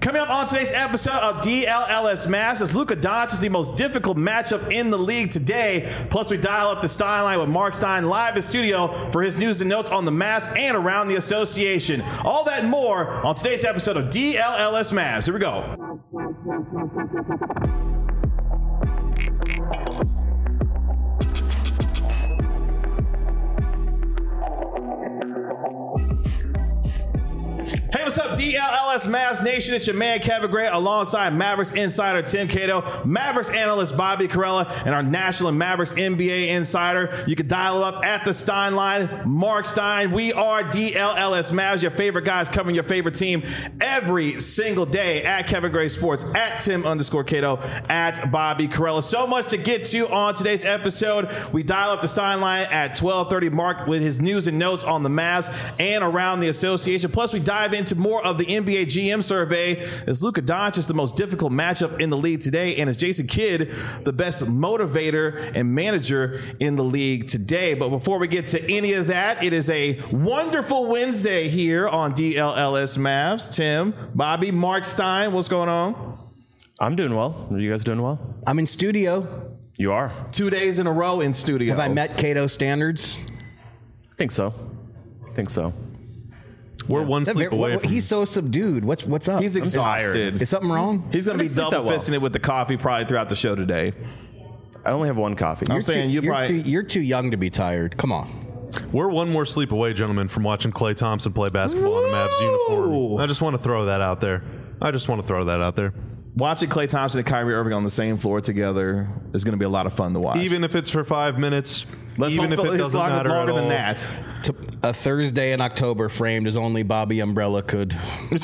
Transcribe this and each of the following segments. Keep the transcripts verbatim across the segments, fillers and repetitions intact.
Coming up on today's episode of D L L S Mavs, is Luka Doncic the most difficult matchup in the league today? Plus, we dial up the Stein line with Mark Stein live in studio for his news and notes on the Mavs and around the association. All that and more on today's episode of D L L S Mavs. Here we go. Hey, what's up, D L L S Mavs Nation? It's your man, Kevin Gray, alongside Mavericks insider Tim Cato, Mavericks analyst Bobby Carella, and our national and Mavericks N B A insider. You can dial up at the Stein line, Mark Stein. We are D L L S Mavs, your favorite guys covering your favorite team every single day at Kevin Gray Sports, at Tim underscore Cato, at Bobby Carella. So much to get to on today's episode. We dial up the Stein line at twelve thirty, Mark with his news and notes on the Mavs and around the association. Plus, we dive into more of the N B A G M survey. Is Luka Doncic the most difficult matchup in the league today? And is Jason Kidd the best motivator and manager in the league today? But before we get to any of that, it is a wonderful Wednesday here on D L L S Mavs. Tim, Bobby, Mark Stein, what's going on? I'm doing well. Are you guys doing well? I'm in studio. You are? Two days in a row in studio. Have I met Cato standards? I think so. I think so. We're yeah. one sleep away. What, From he's so subdued. What's what's up? He's exhausted. Is something wrong? He's going to be double fisting well. it with the coffee probably throughout the show today. I only have one coffee. I'm you're saying too, you you're probably too, you're too young to be tired. Come on. We're one more sleep away, gentlemen, from watching Klay Thompson play basketball in a Mavs uniform. I just want to throw that out there. I just want to throw that out there. Watching Klay Thompson and Kyrie Irving on the same floor together is going to be a lot of fun to watch. Even if it's for five minutes. Let's even if it doesn't longer, matter longer at all. than that. To a Thursday in October framed as only Bobby Umbrella could.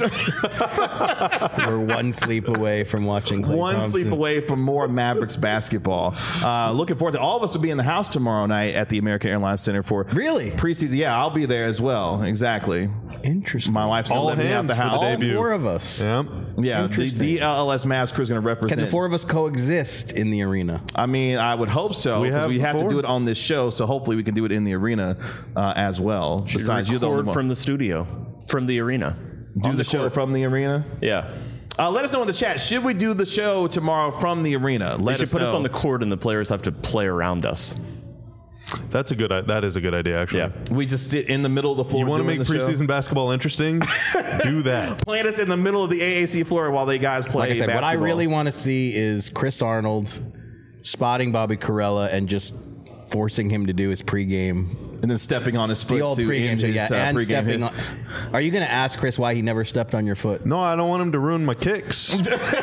We're one sleep away from watching Klay One Thompson. sleep away from more Mavericks basketball. Uh, looking forward to all of us will be in the house tomorrow night at the American Airlines Center for really preseason. Yeah, I'll be there as well. Exactly. Interesting. My wife's all going to let me out the house. All four of us. Yeah. Yeah, the D L L S Mavs crew is going to represent. Can the four of us coexist in the arena? I mean, I would hope so. We because have we have to before. do it on this show, so hopefully we can do it in the arena uh, as well. Should Besides, you're the record only one. from the studio, from the arena. Do On the, the show court. from the arena. Yeah. Uh, let us know in the chat. Should we do the show tomorrow from the arena? Let They should us put know. us on the court and the players have to play around us. That's a good. That is a good idea, actually. Yeah. We just sit in the middle of the floor. You want to doing make the show? preseason basketball interesting? Do that. Plant us in the middle of the A A C floor while they guys play Like I said, basketball. what I really want to see is Chris Arnold spotting Bobby Carella and just forcing him to do his pregame. And then stepping on his foot The old to pregame, end so his yeah, uh, and pregame stepping hit. on. Are you going to ask Chris why he never stepped on your foot? No, I don't want him to ruin my kicks.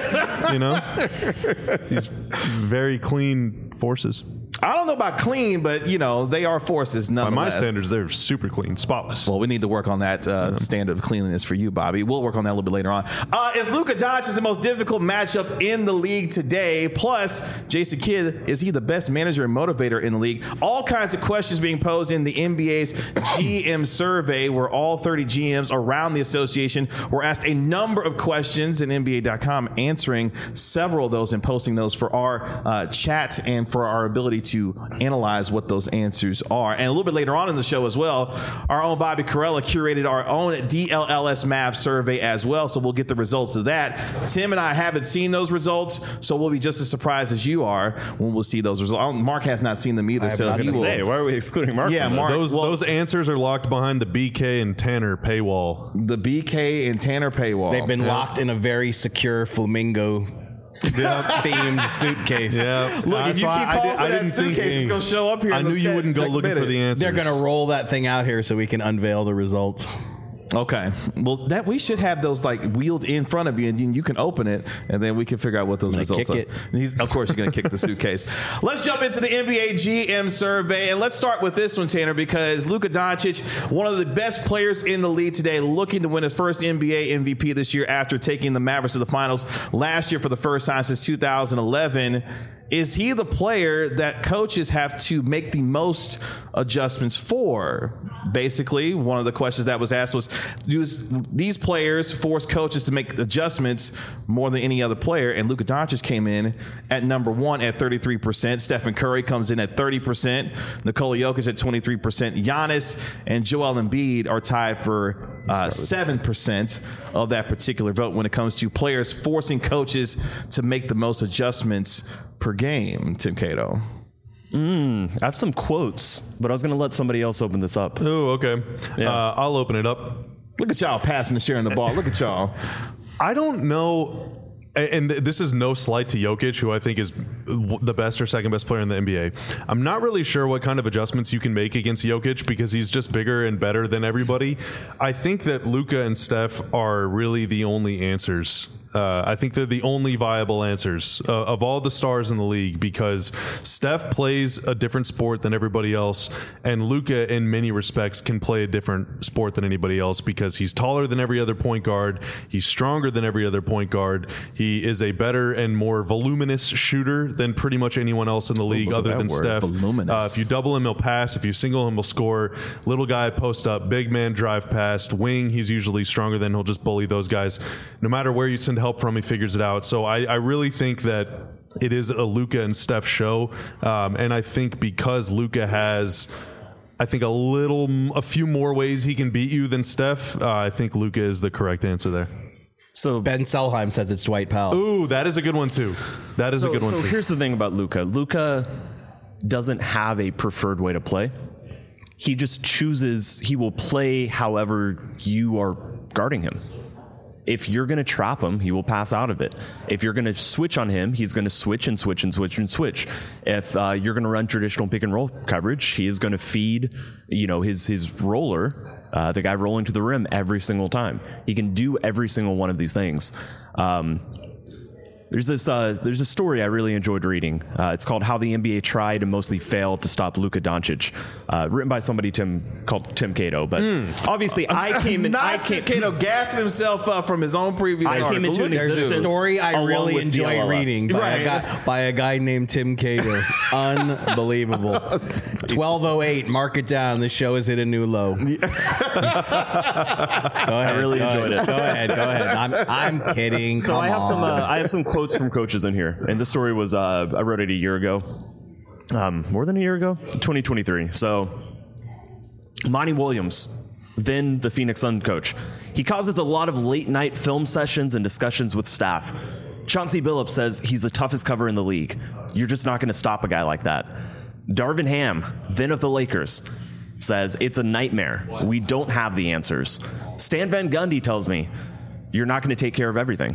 You know, he's, he's very clean forces. I don't know about clean, but, you know, they are forces By nonetheless. my standards, they're super clean, spotless. Well, we need to work on that uh, standard of cleanliness for you, Bobby. We'll work on that a little bit later on. Uh, is Luka Doncic the most difficult matchup in the league today? Plus, Jason Kidd, is he the best manager and motivator in the league? All kinds of questions being posed in the N B A's G M survey, where all thirty G Ms around the association were asked a number of questions, and N B A dot com answering several of those and posting those for our uh, chat and for our ability to analyze what those answers are. And a little bit later on in the show as well, our own Bobby Carella curated our own D L L S Mavs survey as well, so we'll get the results of that. Tim and I haven't seen those results, so we'll be just as surprised as you are when we'll see those results. Mark has not seen them either, so I was he going to will. say, why are we excluding Mark? Yeah, from this? Mark- Those well- those answers are locked behind the B K and Tanner paywall. The B K and Tanner paywall. They've been locked in a very secure flamingo themed suitcase. Yeah. Look, if you keep calling for that suitcase, it's going to show up here. I in the knew you stat- wouldn't go next looking minute. for the answers. They're going to roll that thing out here so we can unveil the results. Okay. Well, that we should have those like wheeled in front of you, and you can open it, and then we can figure out what those I'm gonna results kick are. it. He's, of course, you're going to kick the suitcase. Let's jump into the N B A G M survey, and let's start with this one, Tanner, because Luka Doncic, one of the best players in the league today, looking to win his first N B A M V P this year after taking the Mavericks to the finals last year for the first time since two thousand eleven. is he the player that coaches have to make the most adjustments for? Basically, one of the questions that was asked was, do these players force coaches to make adjustments more than any other player? And Luka Doncic came in at number one at thirty-three percent. Stephen Curry comes in at thirty percent. Nikola Jokic at twenty-three percent. Giannis and Joel Embiid are tied for uh, seven percent of that particular vote when it comes to players forcing coaches to make the most adjustments per game. Tim Cato. Mm, I have some quotes, but I was going to let somebody else open this up. Oh, okay. Yeah. Uh, I'll open it up. Look at y'all passing and sharing the ball. Look at y'all. I don't know, and this is no slight to Jokic, who I think is the best or second best player in the N B A. I'm not really sure what kind of adjustments you can make against Jokic because he's just bigger and better than everybody. I think that Luka and Steph are really the only answers. Uh, I think they're the only viable answers uh, of all the stars in the league because Steph plays a different sport than everybody else, and Luka, in many respects, can play a different sport than anybody else because he's taller than every other point guard. He's stronger than every other point guard. He is a better and more voluminous shooter than pretty much anyone else in the league other than word, Steph. voluminous. Uh, if you double him, he'll pass. If you single him, he'll score. Little guy, post up. Big man, drive past. Wing, he's usually stronger than he'll just bully those guys. No matter where you send help from, he figures it out. So I, I really think that it is a Luka and Steph show. Um, and I think because Luka has, I think, a little, a few more ways he can beat you than Steph, uh, I think Luka is the correct answer there. So Ben Selheim says it's Dwight Powell. Ooh, that is a good one too. That is so, a good one so too. here's the thing about Luka. Luka doesn't have a preferred way to play. He just chooses, he will play however you are guarding him. If you're going to trap him, he will pass out of it. If you're going to switch on him, he's going to switch and switch and switch and switch. If uh, you're going to run traditional pick and roll coverage, he is going to feed, you know, his his roller, uh, the guy rolling to the rim every single time. He can do every single one of these things. Um, There's this uh, there's a story I really enjoyed reading. Uh, it's called "How the N B A Tried and Mostly Failed to Stop Luka Doncic," uh, written by somebody Tim called Tim Cato. But mm. obviously, I came in. Not I Tim came, Cato gassing himself up from his own previous I article. came into an Look at There's existence a story I along really with enjoyed D L S. reading by, Right. a guy, by a guy named Tim Cato. Unbelievable. twelve oh eight, mark it down. This show has hit a new low. Go ahead. I really go enjoyed ahead. it. Go ahead. Go ahead. I'm, I'm kidding. So Come I have on. some uh, I have some quotes from coaches in here, and this story was uh, I wrote it a year ago, um, more than a year ago, twenty twenty-three. So Monty Williams, then the Phoenix Sun coach, he causes a lot of late night film sessions and discussions with staff. Chauncey Billups says he's the toughest cover in the league. You're just not going to stop a guy like that. Darvin Ham, then of the Lakers, says it's a nightmare. We don't have the answers. Stan Van Gundy tells me you're not going to take care of everything.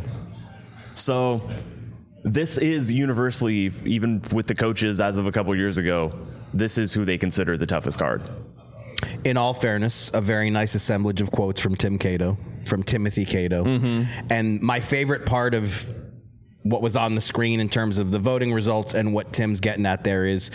So this is universally, even with the coaches as of a couple years ago, this is who they consider the toughest guard. In all fairness, a very nice assemblage of quotes from Tim Cato, from Timothy Cato. Mm-hmm. And my favorite part of what was on the screen in terms of the voting results and what Tim's getting at there is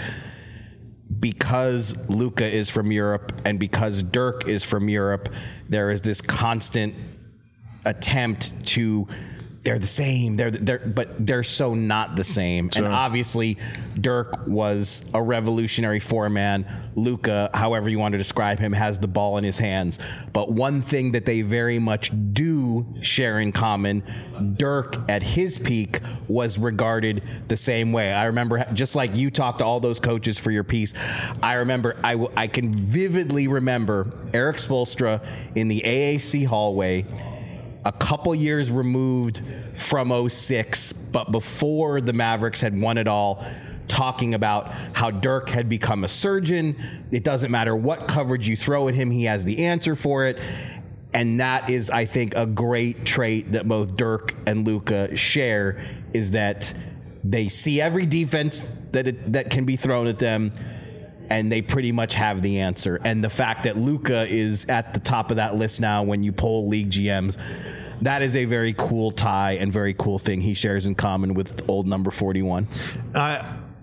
because Luka is from Europe and because Dirk is from Europe, there is this constant attempt to they're the same, they're, they're but they're so not the same. Sure. And obviously, Dirk was a revolutionary four-man. Luka, however you want to describe him, has the ball in his hands. But one thing that they very much do share in common, Dirk at his peak was regarded the same way. I remember, just like you talked to all those coaches for your piece, I remember, I, w- I can vividly remember Eric Spoelstra in the A A C hallway, a couple years removed from oh six, but before the Mavericks had won it all, talking about how Dirk had become a surgeon. It doesn't matter what coverage you throw at him, he has the answer for it. And that is, I think, a great trait that both Dirk and Luka share, is that they see every defense that it, that can be thrown at them, and they pretty much have the answer. And the fact that Luka is at the top of that list now when you poll league G Ms, that is a very cool tie and very cool thing he shares in common with old number forty-one. I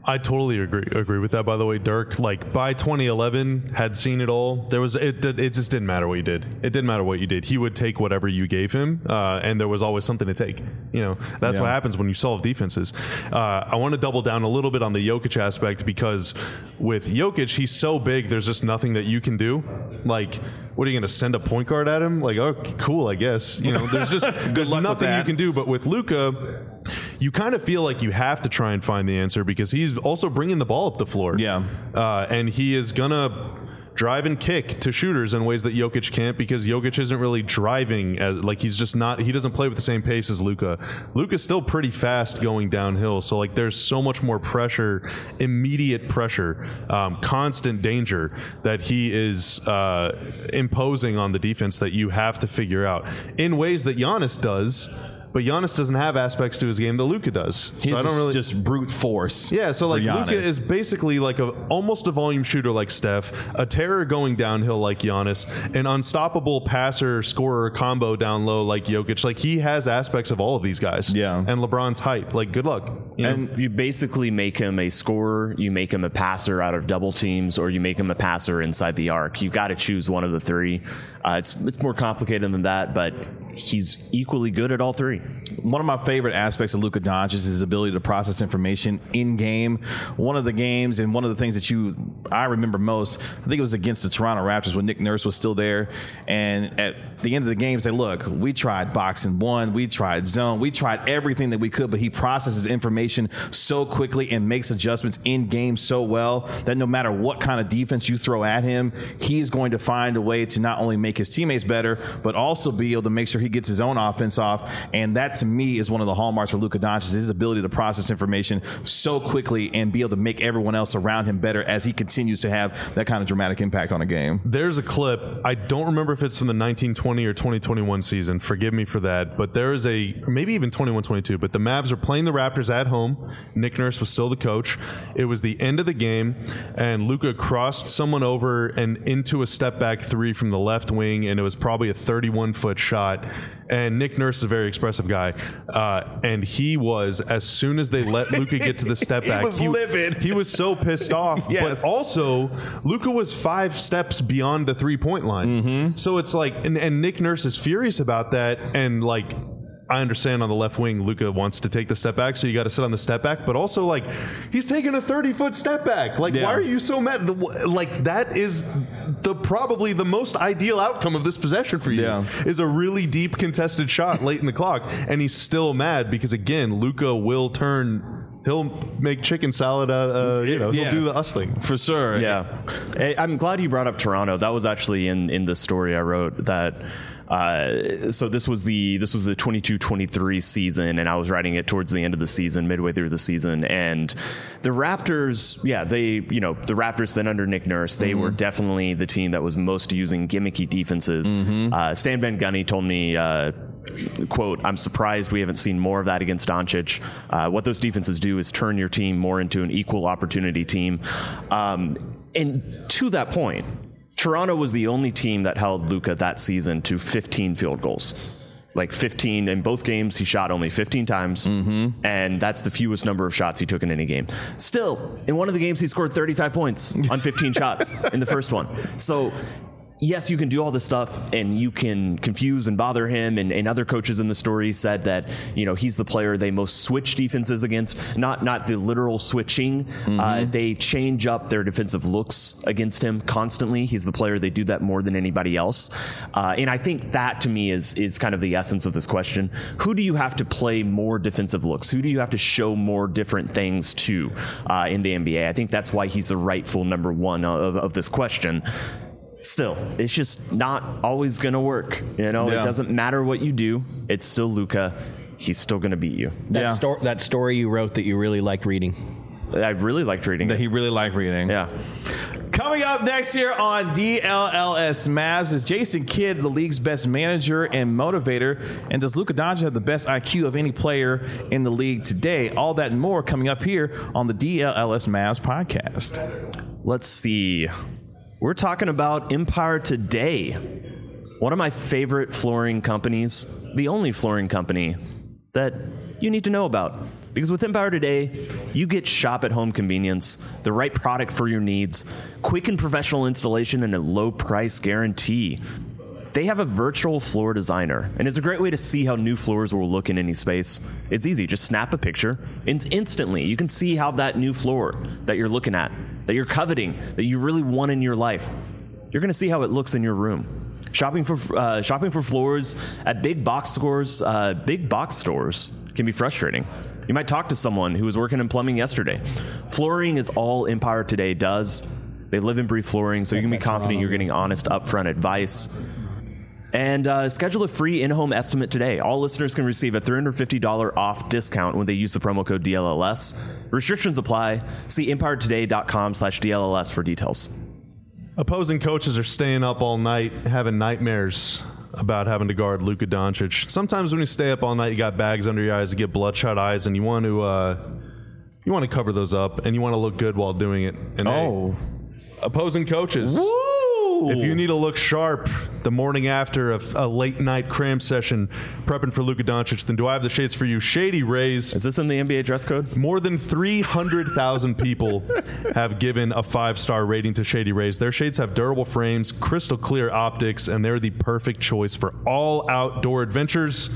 I totally agree agree with that. By the way, Dirk, like by twenty eleven, had seen it all. There was it. It just didn't matter what you did. It didn't matter what you did. He would take whatever you gave him, uh, and there was always something to take. You know, that's Yeah. what happens when you solve defenses. Uh, I want to double down a little bit on the Jokic aspect because with Jokic, he's so big. There's just nothing that you can do. Like, what are you going to send a point guard at him? Like, oh, cool, I guess. You know, there's just there's luck with nothing you that. can do. But with Luka, you kind of feel like you have to try and find the answer because he's also bringing the ball up the floor. Yeah. Uh, and he is going to drive and kick to shooters in ways that Jokic can't because Jokic isn't really driving as, like he's just not he doesn't play with the same pace as Luka. Luka's still pretty fast going downhill, so like there's so much more pressure, immediate pressure, um, constant danger that he is uh, imposing on the defense that you have to figure out in ways that Giannis does. But Giannis doesn't have aspects to his game that Luka does. He's so I don't just, really just brute force. yeah, so like for Luka Giannis. is basically like a almost a volume shooter like Steph, a terror going downhill like Giannis, an unstoppable passer scorer combo down low like Jokic. Like he has aspects of all of these guys. Yeah. And LeBron's height. Like good luck. You know? And you basically make him a scorer, you make him a passer out of double teams, or you make him a passer inside the arc. You got to choose one of the three. Uh, it's it's more complicated than that, but he's equally good at all three. One of my favorite aspects of Luka Doncic is his ability to process information in game. One of the games and one of the things that you I remember most, I think it was against the Toronto Raptors when Nick Nurse was still there. And at the end of the game, say, look, we tried boxing one, we tried zone, we tried everything that we could, but he processes information so quickly and makes adjustments in game so well that no matter what kind of defense you throw at him, he's going to find a way to not only make his teammates better, but also be able to make sure he gets his own offense off. And that to me is one of the hallmarks for Luka Doncic, his ability to process information so quickly and be able to make everyone else around him better as he continues to have that kind of dramatic impact on a game. There's a clip. I don't remember if it's from the nineteen twenty or twenty twenty-one season. Forgive me for that. But there is a, maybe even twenty-one twenty-two, but the Mavs are playing the Raptors at home. Nick Nurse was still the coach. It was the end of the game, and Luka crossed someone over and into a step back three from the left wing, and it was probably a thirty-one foot shot. And Nick Nurse is a very expressive guy. Uh, and he was, as soon as they let Luka get to the step He back, was livid. He was so pissed off. Yes. But also, Luka was five steps beyond the three-point line. Mm-hmm. So it's like, and, and Nick Nurse is furious about that. And like, I understand on the left wing, Luka wants to take the step back, so you got to sit on the step back. But also, like, he's taking a thirty-foot step back. Like, Yeah. why are you so mad? The- Like, that is the probably the most ideal outcome of this possession for you. Yeah. Is a really deep contested shot late in the clock, and he's still mad because again, Luka will turn. He'll make chicken salad. Uh, uh, you know, Yes. he'll do the us thing. For sure. Yeah. Hey, I'm glad you brought up Toronto. That was actually in, in the story I wrote that. Uh, so this was the this was the twenty-two twenty-three season, and I was writing it towards the end of the season, midway through the season. And the Raptors, yeah, they, you know, the Raptors then under Nick Nurse, they mm-hmm. were definitely the team that was most using gimmicky defenses. Mm-hmm. Uh, Stan Van Gundy told me, uh, quote, "I'm surprised we haven't seen more of that against Doncic. Uh, what those defenses do is turn your team more into an equal opportunity team." Um, and to that point, Toronto was the only team that held Luka that season to fifteen field goals. Like fifteen in both games, he shot only fifteen times, mm-hmm. and that's the fewest number of shots he took in any game. Still, in one of the games, he scored thirty-five points on fifteen shots in the first one. So, yes, you can do all this stuff and you can confuse and bother him. And, and other coaches in the story said that, you know, he's the player they most switch defenses against, not not the literal switching. Mm-hmm. Uh, they change up their defensive looks against him constantly. He's the player they do that more than anybody else. Uh, and I think that to me is is kind of the essence of this question. Who do you have to play more defensive looks? Who do you have to show more different things to uh, in the N B A? I think that's why he's the rightful number one of, of this question. Still, it's just not always going to work. You know, Yeah. It doesn't matter what you do. It's still Luka. He's still going to beat you. That, Yeah. sto- that story you wrote that you really liked reading. I really liked reading That it. he really liked reading. Yeah. Coming up next here on D L L S Mavs is Jason Kidd, the league's best manager and motivator. And does Luka Doncic have the best I Q of any player in the league today? All that and more coming up here on the D L L S Mavs podcast. Let's see. We're talking about Empire Today, one of my favorite flooring companies, the only flooring company that you need to know about. Because with Empower Today, you get shop at home convenience, the right product for your needs, quick and professional installation, and a low price guarantee. They have a virtual floor designer, and it's a great way to see how new floors will look in any space. It's easy. Just snap a picture, and instantly you can see how that new floor that you're looking at, that you're coveting, that you really want in your life, you're going to see how it looks in your room. Shopping for uh, shopping for floors at big box stores, uh, big box stores can be frustrating. You might talk to someone who was working in plumbing yesterday. Flooring is all Empower Today does. They live and breathe flooring, so you can be confident you're getting honest, upfront advice. And uh, schedule a free in-home estimate today. All listeners can receive a three hundred fifty dollars off discount when they use the promo code D L L S. Restrictions apply. See empower today dot com slash D L L S for details. Opposing coaches are staying up all night, having nightmares about having to guard Luka Doncic. Sometimes when you stay up all night, you got bags under your eyes, you get bloodshot eyes, and you want to uh, you want to cover those up, and you want to look good while doing it. And Oh. hey, opposing coaches. Woo! If you need to look sharp the morning after a, a late night cram session prepping for Luka Doncic, then do I have the shades for you? Shady Rays. Is this in the N B A dress code? More than three hundred thousand people have given a five-star rating to Shady Rays. Their shades have durable frames, crystal clear optics, and they're the perfect choice for all outdoor adventures.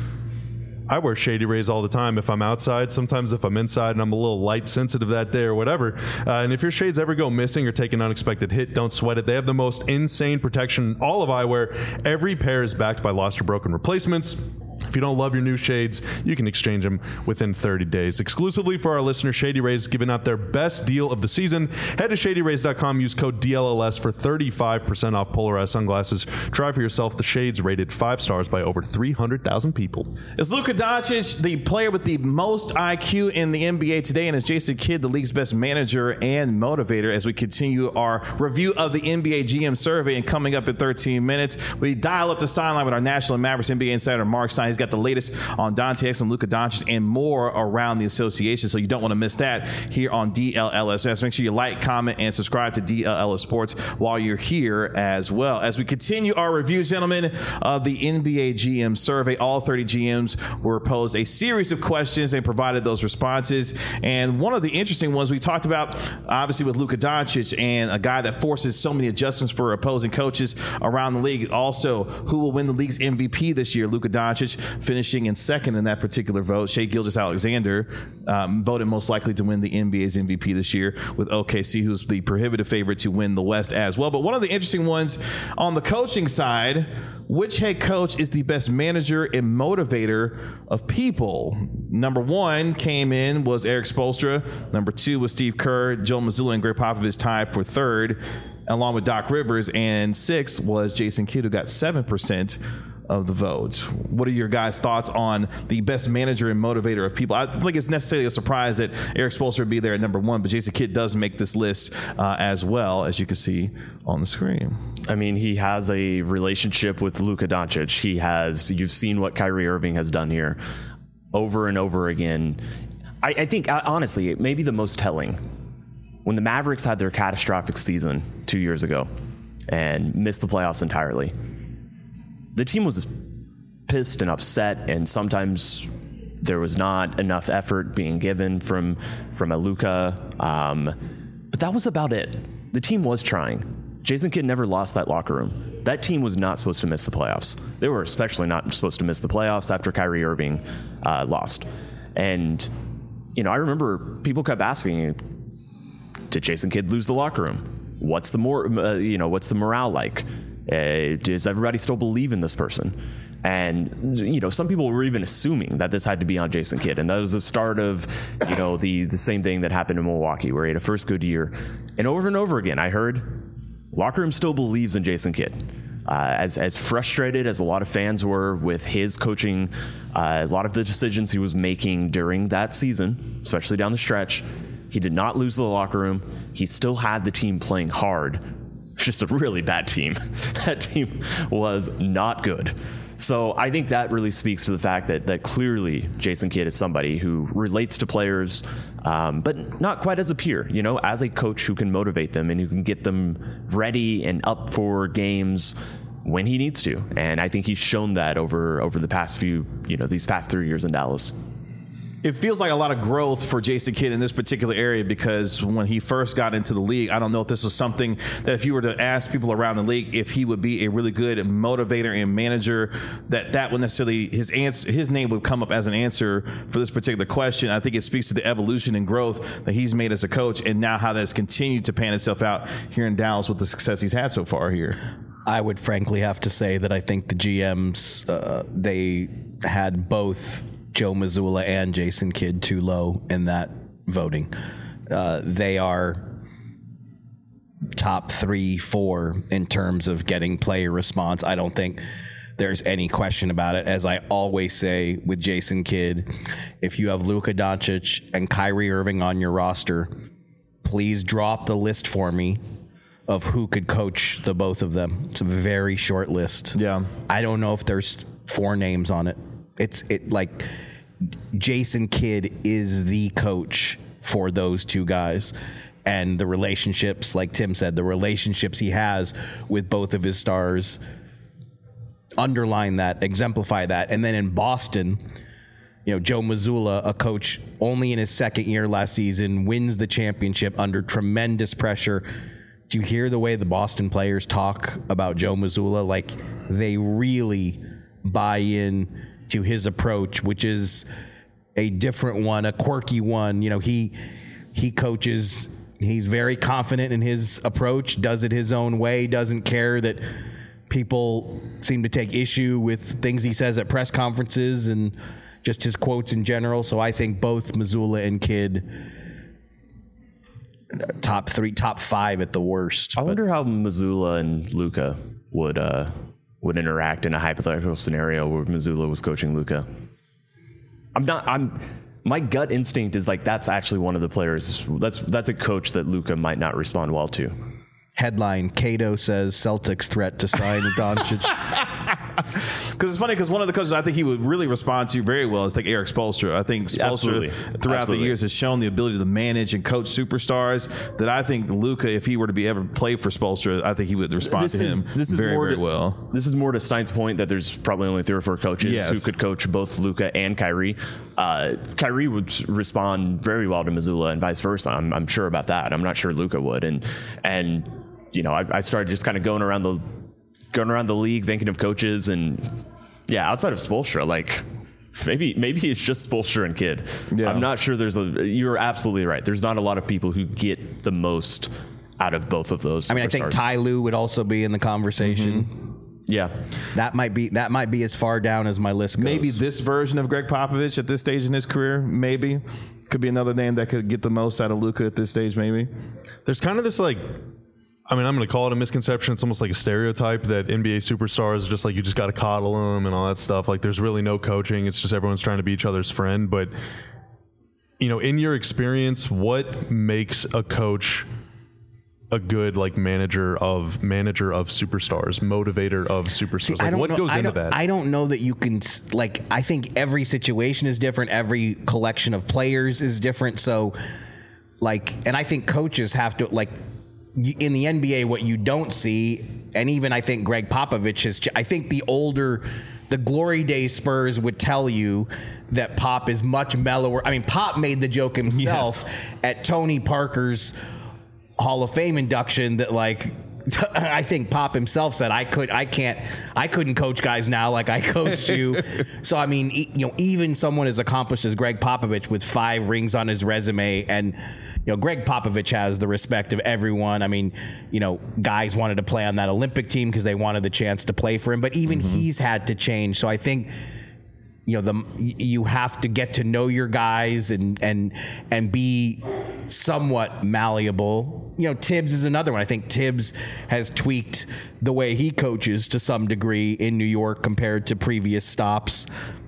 I wear Shady Rays all the time if I'm outside. Sometimes if I'm inside and I'm a little light sensitive that day or whatever. Uh, and if your shades ever go missing or take an unexpected hit, don't sweat it. They have the most insane protection in all of eyewear. Every pair is backed by lost or broken replacements. If you don't love your new shades, you can exchange them within thirty days. Exclusively for our listeners, Shady Rays is giving out their best deal of the season. Head to shady rays dot com, use code D L L S for thirty-five percent off polarized sunglasses. Try for yourself the shades rated five stars by over three hundred thousand people. Is Luka Doncic the player with the most I Q in the N B A today? And is Jason Kidd the league's best manager and motivator? As we continue our review of the N B A G M survey, and coming up in thirteen minutes, we dial up the sideline with our National Mavericks N B A insider Mark Stein. He's got the latest on Dante Exum, Luka Doncic, and more around the association, so you don't want to miss that here on D L L S. Make sure you like, comment, and subscribe to D L L S Sports while you're here as well. As we continue our review, gentlemen, of the N B A G M survey, all thirty G Ms were posed a series of questions and provided those responses. And one of the interesting ones we talked about, obviously, with Luka Doncic, and a guy that forces so many adjustments for opposing coaches around the league. Also, who will win the league's M V P this year? Luka Doncic finishing in second in that particular vote. Shai Gilgeous-Alexander um, voted most likely to win the N B A's M V P this year, with O K C, who's the prohibitive favorite to win the West as well. But one of the interesting ones on the coaching side, which head coach is the best manager and motivator of people? Number one came in was Eric Spoelstra. Number two was Steve Kerr. Joe Mazzulla and Greg Popovich tied for third, along with Doc Rivers. And sixth was Jason Kidd, who got seven percent of the votes. What are your guys' thoughts on the best manager and motivator of people? I don't think it's necessarily a surprise that Eric Spoelstra would be there at number one, but Jason Kidd does make this list uh, as well, as you can see on the screen. I mean, he has a relationship with Luka Doncic. He has, you've seen what Kyrie Irving has done here over and over again. I, I think, honestly, it may be the most telling. When the Mavericks had their catastrophic season two years ago and missed the playoffs entirely, the team was pissed and upset, and sometimes there was not enough effort being given from from a Luka. Um, but that was about it. The team was trying. Jason Kidd never lost that locker room. That team was not supposed to miss the playoffs. They were especially not supposed to miss the playoffs after Kyrie Irving uh, lost. And, you know, I remember people kept asking, did Jason Kidd lose the locker room? What's the more, uh, you know, what's the morale like? Uh, does everybody still believe in this person? And, you know, some people were even assuming that this had to be on Jason Kidd. And that was the start of, you know, the, the same thing that happened in Milwaukee, where he had a first good year. And over and over again, I heard locker room still believes in Jason Kidd. Uh, as, as frustrated as a lot of fans were with his coaching, uh, a lot of the decisions he was making during that season, especially down the stretch, he did not lose the locker room. He still had the team playing hard. Just a really bad team. That team was not good. So I think that really speaks to the fact that that clearly Jason Kidd is somebody who relates to players, um, but not quite as a peer, you know, as a coach who can motivate them and who can get them ready and up for games when he needs to. And I think he's shown that over over the past few, you know, these past three years in Dallas. it feels like a lot of growth for Jason Kidd in this particular area, because when he first got into the league, I don't know if this was something that if you were to ask people around the league if he would be a really good motivator and manager, that that would necessarily his answer his name would come up as an answer for this particular question. I think it speaks to the evolution and growth that he's made as a coach, and now how that's continued to pan itself out here in Dallas with the success he's had so far here. I would frankly have to say that I think the G Ms, uh, they had both Joe Mazzulla and Jason Kidd too low in that voting. Uh, they are top three, four in terms of getting player response. I don't think there's any question about it. As I always say with Jason Kidd, if you have Luka Doncic and Kyrie Irving on your roster, please drop the list for me of who could coach the both of them. It's a very short list. Yeah. I don't know if there's four names on it. It's it like Jason Kidd is the coach for those two guys. And the relationships, like Tim said, the relationships he has with both of his stars underline that, exemplify that. And then in Boston, you know, Joe Mazzulla, a coach only in his second year last season, wins the championship under tremendous pressure. Do you hear the way the Boston players talk about Joe Mazzulla? Like, they really buy in to his approach, which is a different one, a quirky one. You know, he he coaches, he's very confident in his approach, does it his own way, doesn't care that people seem to take issue with things he says at press conferences and just his quotes in general. So I think both Mazzulla and Kidd, top three, top five at the worst. I wonder how Mazzulla and Luka would uh, would interact in a hypothetical scenario where Mazzulla was coaching Luka. I'm not. I'm. My gut instinct is like that's actually one of the players. That's that's a coach that Luka might not respond well to. Headline: Cato says Celtics threat to sign Doncic. Because it's funny, because one of the coaches I think he would really respond to very well is like Eric Spoelstra. I think Spoelstra Absolutely. throughout Absolutely. the years has shown the ability to manage and coach superstars that I think Luka, if he were to be ever play for Spoelstra, I think he would respond This to is him this is very, more very to, well. This is more to Stein's point that there's probably only three or four coaches Yes. who could coach both Luka and Kyrie. Uh, Kyrie would respond very well to Mazzulla and vice versa. I'm, I'm sure about that. I'm not sure Luka would. And and you know, I, I started just kind of going around the going around the league thinking of coaches, and yeah, outside of Spoelstra, like maybe maybe it's just Spoelstra and Kidd. Yeah. I'm not sure. There's a. You're absolutely right. There's not a lot of people who get the most out of both of those. I mean, I think superstars. Ty Lue would also be in the conversation. Mm-hmm. Yeah. That might be that might be as far down as my list goes. Maybe this version of Greg Popovich at this stage in his career, maybe could be another name that could get the most out of Luka at this stage. Maybe There's kind of this like, I mean, I'm going to call it a misconception. It's almost like a stereotype that N B A superstars just like you just got to coddle them and all that stuff. Like there's really no coaching. It's just everyone's trying to be each other's friend. But, you know, in your experience, what makes a coach a good like manager of manager of superstars, motivator of superstars? See, like, I don't what know, goes I into don't- that? I don't know that you can s- like. I think every situation is different. Every collection of players is different. So, like, and I think coaches have to like y- in the N B A. What you don't see, and even I think Greg Popovich has. ch- I think the older, the glory days Spurs would tell you that Pop is much mellower. I mean, Pop made the joke himself at Tony Parker's Hall of Fame induction that like I think Pop himself said I could I can't I couldn't coach guys now like I coached you. So I mean, e- you know, even someone as accomplished as Greg Popovich with five rings on his resume, and you know, Greg Popovich has the respect of everyone. I mean, you know, guys wanted to play on that Olympic team because they wanted the chance to play for him, but even mm-hmm. he's had to change. So I think you know, the you have to get to know your guys and and and be somewhat malleable. You know, Tibbs is another one. I think Tibbs has tweaked the way he coaches to some degree in New York compared to previous stops.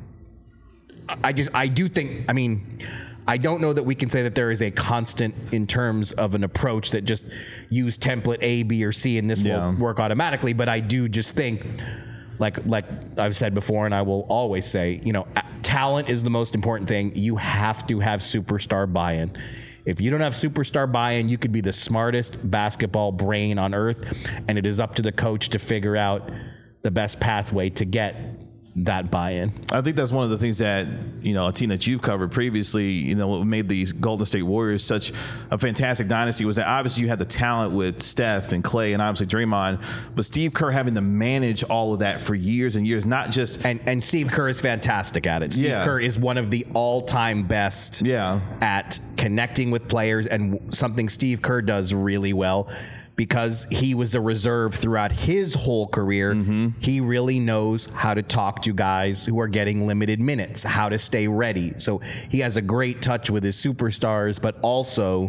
I just I do think I mean I don't know that we can say that there is a constant in terms of an approach that just use template A, B, or C and this Yeah. will work automatically. But I do just think Like like I've said before, and I will always say, you know, talent is the most important thing. You have to have superstar buy-in. If you don't have superstar buy-in, you could be the smartest basketball brain on earth, and it is up to the coach to figure out the best pathway to get that buy-in. I think that's one of the things that, you know, a team that you've covered previously, you know, what made these Golden State Warriors such a fantastic dynasty was that obviously you had the talent with Steph and Clay and obviously Draymond, but Steve Kerr having to manage all of that for years and years, not just... And and Steve Kerr is fantastic at it. Steve Yeah. Kerr is one of the all-time best Yeah. at connecting with players, and something Steve Kerr does really well. Because he was a reserve throughout his whole career, mm-hmm. he really knows how to talk to guys who are getting limited minutes, how to stay ready. So he has a great touch with his superstars, but also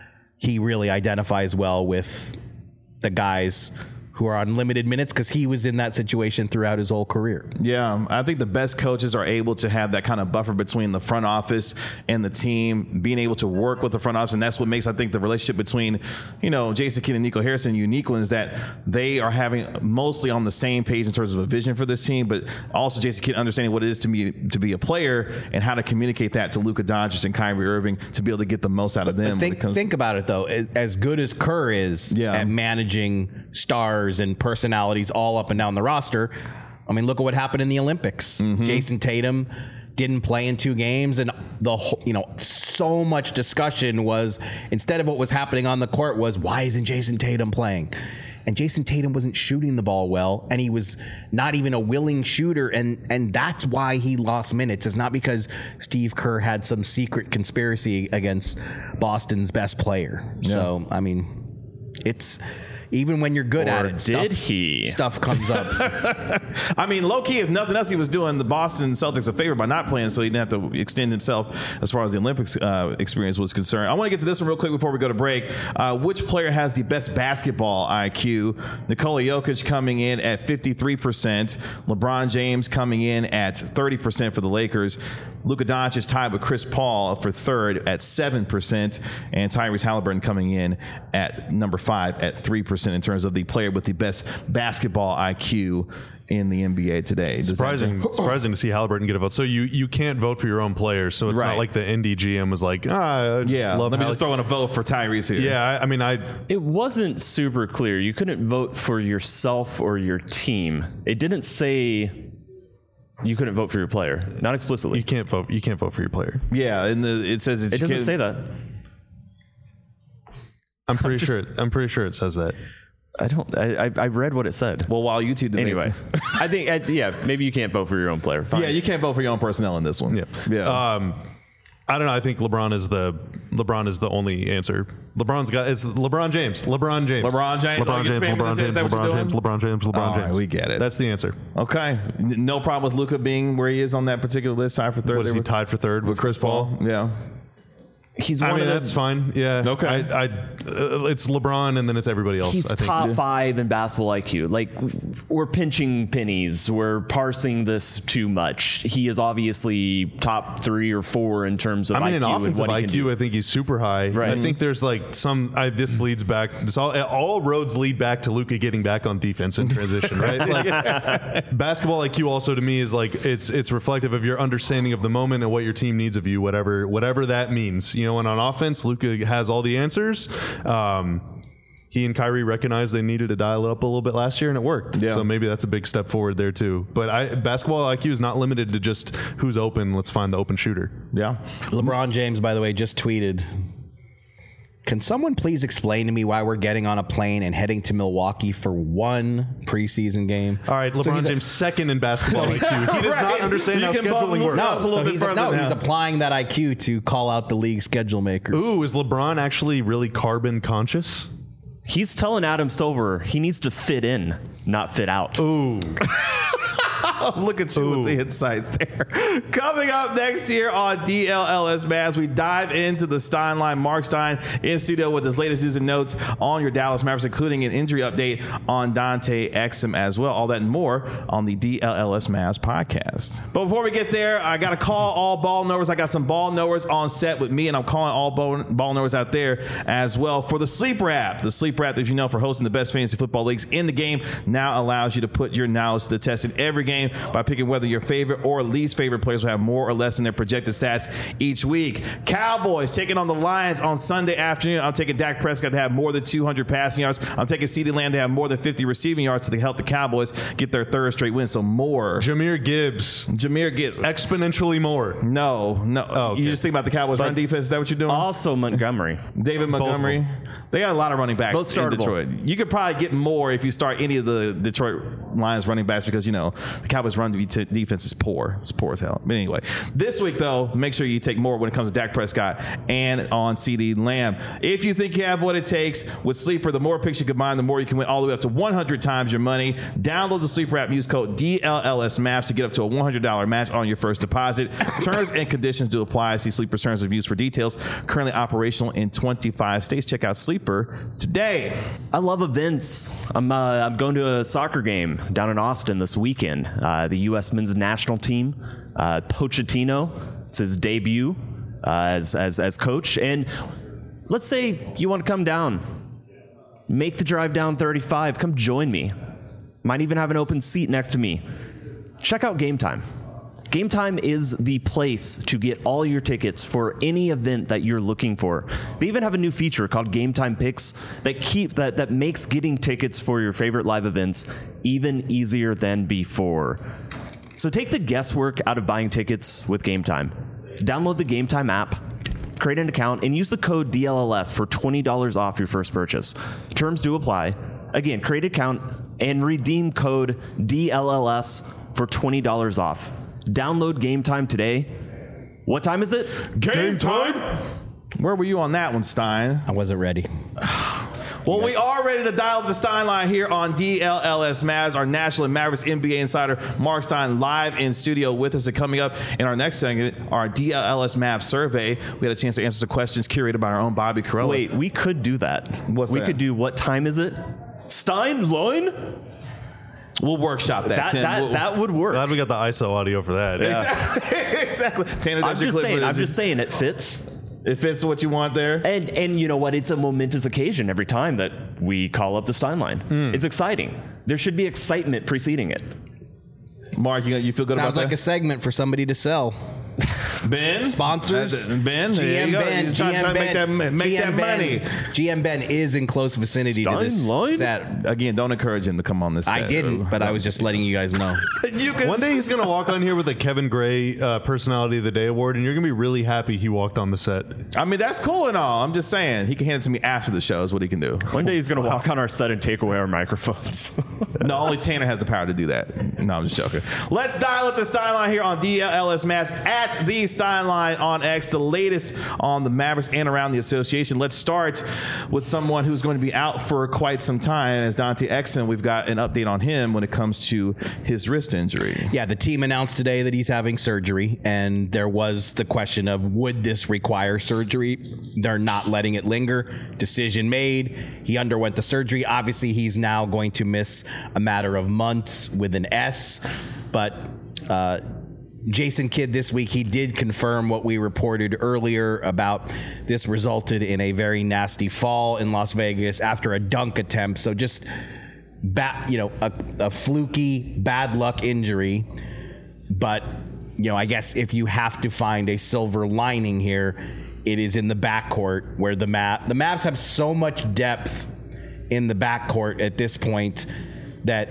he really identifies well with the guys who are on limited minutes because he was in that situation throughout his whole career. Yeah, I think the best coaches are able to have that kind of buffer between the front office and the team, being able to work with the front office, and that's what makes, I think, the relationship between, you know, Jason Kidd and Nico Harrison unique one, is that they are having mostly on the same page in terms of a vision for this team, but also Jason Kidd understanding what it is to be to be a player and how to communicate that to Luka Doncic and Kyrie Irving to be able to get the most out of them. But think, when it comes think about it, though. As good as Kerr is Yeah. at managing stars and personalities all up and down the roster, I mean, look at what happened in the Olympics. Mm-hmm. Jason Tatum didn't play in two games, and the whole, you know, so much discussion was, instead of what was happening on the court, was why isn't Jason Tatum playing? And Jason Tatum wasn't shooting the ball well, and he was not even a willing shooter, and and that's why he lost minutes. It's not because Steve Kerr had some secret conspiracy against Boston's best player. Yeah. So, I mean, it's... Even when you're good Or at it, did stuff, he? stuff comes up. I mean, low key, if nothing else, he was doing the Boston Celtics a favor by not playing, so he didn't have to extend himself as far as the Olympics uh, experience was concerned. I want to get to this one real quick before we go to break. Uh, which player has the best basketball I Q? Nikola Jokic coming in at fifty-three percent. LeBron James coming in at thirty percent for the Lakers. Luka Doncic is tied with Chris Paul for third at seven percent. And Tyrese Halliburton coming in at number five at three percent in terms of the player with the best basketball I Q in the N B A today. Does Surprising, surprising to see Halliburton get a vote. So you, you can't vote for your own players. So it's Right. not like the N D G M was like, ah, I just Yeah, love let me Hall- just throw in a vote for Tyrese here. Yeah, I, I mean, I It wasn't super clear. You couldn't vote for yourself or your team. It didn't say you couldn't vote for your player, not explicitly. you can't vote. You can't vote for your player. Yeah, and the, it says it's It doesn't say that. I'm pretty sure. I'm pretty sure it says that. I don't. I, I I read what it said. Well, while you two debate. Anyway, I think I, yeah, maybe you can't vote for your own player. Fine. Yeah, you can't vote for your own personnel in this one. Yeah, Yeah. Um, I don't know. I think LeBron is the LeBron is the only answer. LeBron's got it's LeBron James. LeBron James. LeBron James. Oh, LeBron you're James. spamming LeBron this in? Is James. that what you're LeBron James. doing? LeBron James. LeBron All James. right, we get it. That's the answer. Okay. N- No problem with Luka being where he is on that particular list, tied for third. Was there he with- tied for third with Chris Paul? Yeah. he's I one mean, of that's the, fine. Yeah. Okay. I, I, uh, it's LeBron and then it's everybody else. He's I think. top five in basketball I Q. Like, we're pinching pennies. We're parsing this too much. He is obviously top three or four in terms of I mean, I Q in and offensive what he I can Q, do. I think he's super high. Right. I think there's like some. I, this leads back. This all, all roads lead back to Luka getting back on defense in transition, right? Like, basketball I Q also to me is like it's it's reflective of your understanding of the moment and what your team needs of you, whatever whatever that means. You know, and on offense, Luka has all the answers. Um, he and Kyrie recognized they needed to dial it up a little bit last year, and it worked. Yeah. So maybe that's a big step forward there too. But I, basketball I Q is not limited to just who's open. Let's find the open shooter. Yeah. LeBron James, by the way, just tweeted, can someone please explain to me why we're getting on a plane and heading to Milwaukee for one preseason game? All right, LeBron he's a- James second in basketball I Q. He does not understand You how can scheduling bump- works. no, No, a little so bit he's, further no, he's now. applying that I Q to call out the league schedule makers. Ooh, is LeBron actually really carbon conscious? He's telling Adam Silver he needs to fit in, not fit out. Ooh. Look at you with the insight there. Coming up next year on D L L S Mavs, we dive into the Stein line. Mark Stein in studio with his latest news and notes on your Dallas Mavericks, including an injury update on Dante Exum as well. All that and more on the D L L S Mavs podcast. But before we get there, I got to call all ball knowers. I got some ball knowers on set with me, and I'm calling all ball, ball knowers out there as well for the Sleeper app. The Sleeper app, if you know, for hosting the best fantasy football leagues in the game, now allows you to put your knowledge to the test in every game by picking whether your favorite or least favorite players will have more or less in their projected stats each week. Cowboys taking on the Lions on Sunday afternoon. I'm taking Dak Prescott to have more than two hundred passing yards. I'm taking CeeDee Lamb to have more than fifty receiving yards to help the Cowboys get their third straight win. So more. Jahmyr Gibbs. Jahmyr Gibbs. Exponentially more. No, no. Oh, okay. You just think about the Cowboys' But run defense. Is that what you're doing? Also Montgomery. David Montgomery. They got a lot of running backs Both in startable. Detroit. You could probably get more if you start any of the Detroit Lions running backs because, you know, the Cowboys' run defense is poor. It's poor as hell. But anyway, this week, though, make sure you take more when it comes to Dak Prescott and on CeeDee Lamb. If you think you have what it takes with Sleeper, the more picks you combine, the more you can win all the way up to one hundred times your money. Download the Sleeper app. Use code D L L S Maps to get up to a one hundred dollars match on your first deposit. Terms and conditions do apply. See Sleeper's terms and reviews for details. Currently operational in twenty-five states. Check out Sleeper today. I love events. I'm uh, I'm going to a soccer game down in Austin this weekend. Uh, the U S men's national team, uh, Pochettino. It's his debut uh, as as as coach. And let's say you want to come down, make the drive down thirty-five. Come join me. Might even have an open seat next to me. Check out Game Time. Game Time is the place to get all your tickets for any event that you're looking for. They even have a new feature called Game Time Picks that keep that that makes getting tickets for your favorite live events even easier than before. So take the guesswork out of buying tickets with Game Time. Download the Game Time app, create an account, and use the code D L L S for twenty dollars off your first purchase. Terms do apply. Again, create an account and redeem code D L L S for twenty dollars off. Download Game Time today. What time is it? Game time. Where were you on that one, Stein? I wasn't ready. Well, we are ready to dial up the Stein line here on D L L S Mavs. Our National and Mavericks N B A insider, Mark Stein, live in studio with us. And coming up in our next segment, our D L L S Mavs survey. We had a chance to answer some questions curated by our own Bobby Carella. Wait, we could do that. What's we that? could do what time is it? Stein line? We'll workshop that, That Tim. that, We'll- that would work. Glad we got the I S O audio for that. exactly. Tanner, I'm that's your just clip saying. for I'm this. just saying it fits. It fits what you want there. And and you know what? It's a momentous occasion every time that we call up the Stein line. Hmm. It's exciting. There should be excitement preceding it. Mark, you, you feel good Sounds about like that? a segment for somebody to sell. Ben? Sponsors. That- Ben? G There M you go. Ben. You're trying, G M trying to make that, Ben. make G that M money. Ben. G M Ben is in close vicinity to this Stein set. Again, don't encourage him to come on this set. I didn't, but I was just letting you guys know. You can, One day he's going to walk on here with a Kevin Gray uh, Personality of the Day award, and you're going to be really happy he walked on the set. I mean, that's cool and all. I'm just saying, he can hand it to me after the show is what he can do. One day he's going to walk on our set and take away our microphones. No, only Tanner has the power to do that. No, I'm just joking. Let's dial up the Stein line here on D L L S Mass at the Stein line on X, the latest on the Mavericks and around the association. Let's start with someone who's going to be out for quite some time. As Dante Exum, we've got an update on him when it comes to his wrist injury. Yeah, the team announced today that he's having surgery, and there was the question of would this require surgery? They're not letting it linger. Decision made. He underwent the surgery. Obviously, he's now going to miss a matter of months with an S, but uh, Jason Kidd this week, he did confirm what we reported earlier about this resulted in a very nasty fall in Las Vegas after a dunk attempt. So just Bad, you know, a, a fluky bad luck injury, but you know, I guess if you have to find a silver lining here, it is in the backcourt where the Mav the Mavs have so much depth in the backcourt at this point that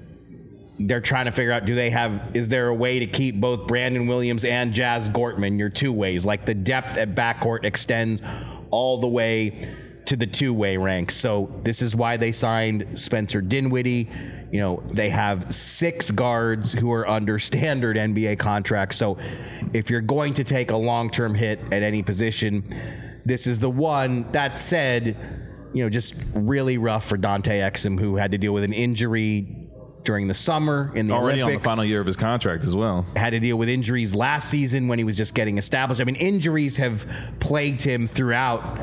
they're trying to figure out, do they have, is there a way to keep both Brandon Williams and Jazz Gortman, your two ways? Like the depth at backcourt extends all the way to the two-way ranks. So this is why they signed Spencer Dinwiddie. You know, they have six guards who are under standard N B A contracts. So if you're going to take a long-term hit at any position, this is the one. That said, you know, just really rough for Dante Exum, who had to deal with an injury during the summer in the Already Olympics. on the final year of his contract as well. Had to deal with injuries last season when he was just getting established. I mean, injuries have plagued him throughout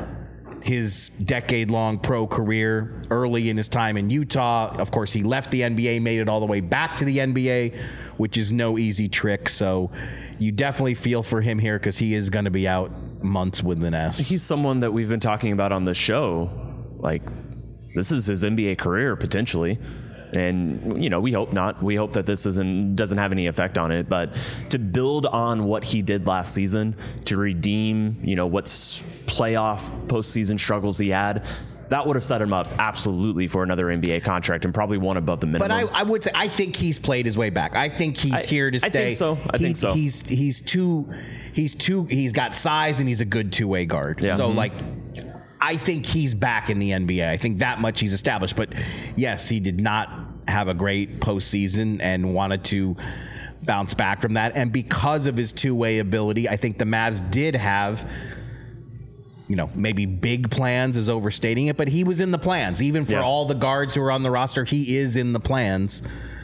his decade-long pro career, early in his time in Utah. Of course, he left the N B A, made it all the way back to the N B A, which is no easy trick. So you definitely feel for him here because he is going to be out months with an S. He's someone that we've been talking about on the show. Like, this is his N B A career, potentially. And, you know, we hope not. We hope that this isn't doesn't have any effect on it. But to build on what he did last season, to redeem, you know, what's playoff postseason struggles he had, that would have set him up absolutely for another N B A contract and probably one above the minimum. But I, I would say I think he's played his way back. I think he's I, here to stay. I think so. I he, think so. He's he's too he's too he's got size and he's a good two way guard. Yeah. So Mm-hmm. like. I think he's back in the N B A. I think that much he's established. But yes, he did not have a great postseason and wanted to bounce back from that. And because of his two-way ability, I think the Mavs did have, you know, maybe big plans is overstating it, but he was in the plans. Even for Yeah. all the guards who are on the roster, he is in the plans.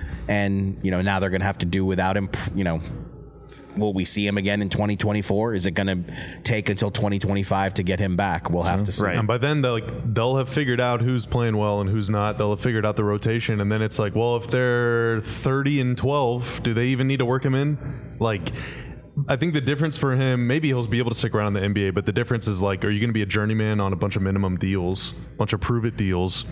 And, you know, now they're going to have to do without him, you know. Will we see him again in twenty twenty-four? Is it going to take until twenty twenty-five to get him back? We'll have to see. Right. And by then, they'll, like, they'll have figured out who's playing well and who's not. They'll have figured out the rotation. And then it's like, well, if they're thirty and twelve, do they even need to work him in? Like, I think the difference for him, maybe he'll be able to stick around in the N B A, but the difference is, like, are you going to be a journeyman on a bunch of minimum deals, a bunch of prove-it deals?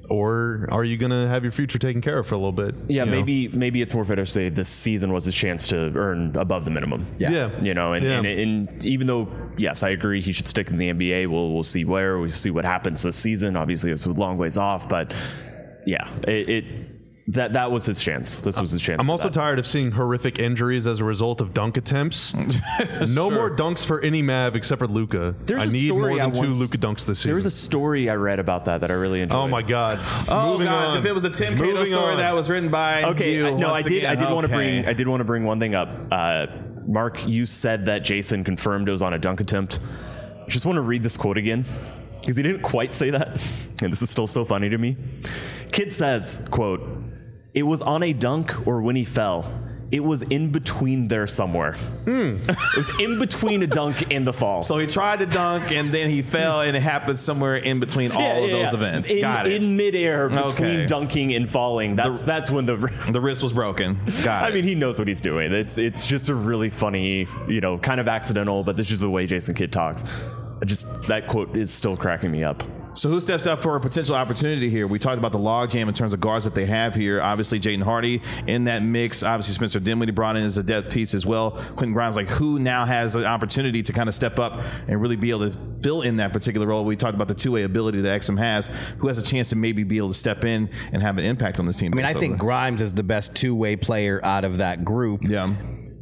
Or are you going to have your future taken care of for a little bit? Yeah, you know? maybe maybe it's more fair to say this season was his chance to earn above the minimum. Yeah. Yeah. You know, and, Yeah. and, and even though, yes, I agree he should stick in the N B A, we'll, we'll see where, we'll see what happens this season. Obviously, it's a long ways off, but yeah, it, it that that was his chance. This was his chance. I'm for also that. tired of seeing horrific injuries as a result of dunk attempts. No more dunks for any Mav except for Luka. There's I a need story more I than two once- Luka dunks this season. There was a story I read about that that I really enjoyed. oh my god! Oh Moving gosh, on. if it was a Tim Cato Moving story on. that was written by Okay, you, I, no, I once did. again, I did want to okay. bring. I did want to bring one thing up. Uh, Mark, you said that Jason confirmed it was on a dunk attempt. I just want to read this quote again because he didn't quite say that, and this is still so funny to me. Kid says, "Quote: It was on a dunk or when he fell. It was in between there somewhere. Mm. It was in between a dunk and the fall." So he tried to dunk and then he fell, and it happened somewhere in between all Yeah, of yeah, those yeah. events. In, Got it. in midair between Okay. dunking and falling. That's that's when the. the wrist was broken. Got I it. mean, he knows what he's doing. It's it's just a really funny, you know, kind of accidental, but this is the way Jason Kidd talks. I just that quote is still cracking me up. So who steps up for a potential opportunity here? We talked about the logjam in terms of guards that they have here. Obviously, Jaden Hardy in that mix. Obviously, Spencer Dinwiddie brought in as a depth piece as well. Quentin Grimes, like who now has an opportunity to kind of step up and really be able to fill in that particular role? We talked about the two-way ability that Exum has. Who has a chance to maybe be able to step in and have an impact on this team? I mean, I think Grimes is the best two-way player out of that group. yeah,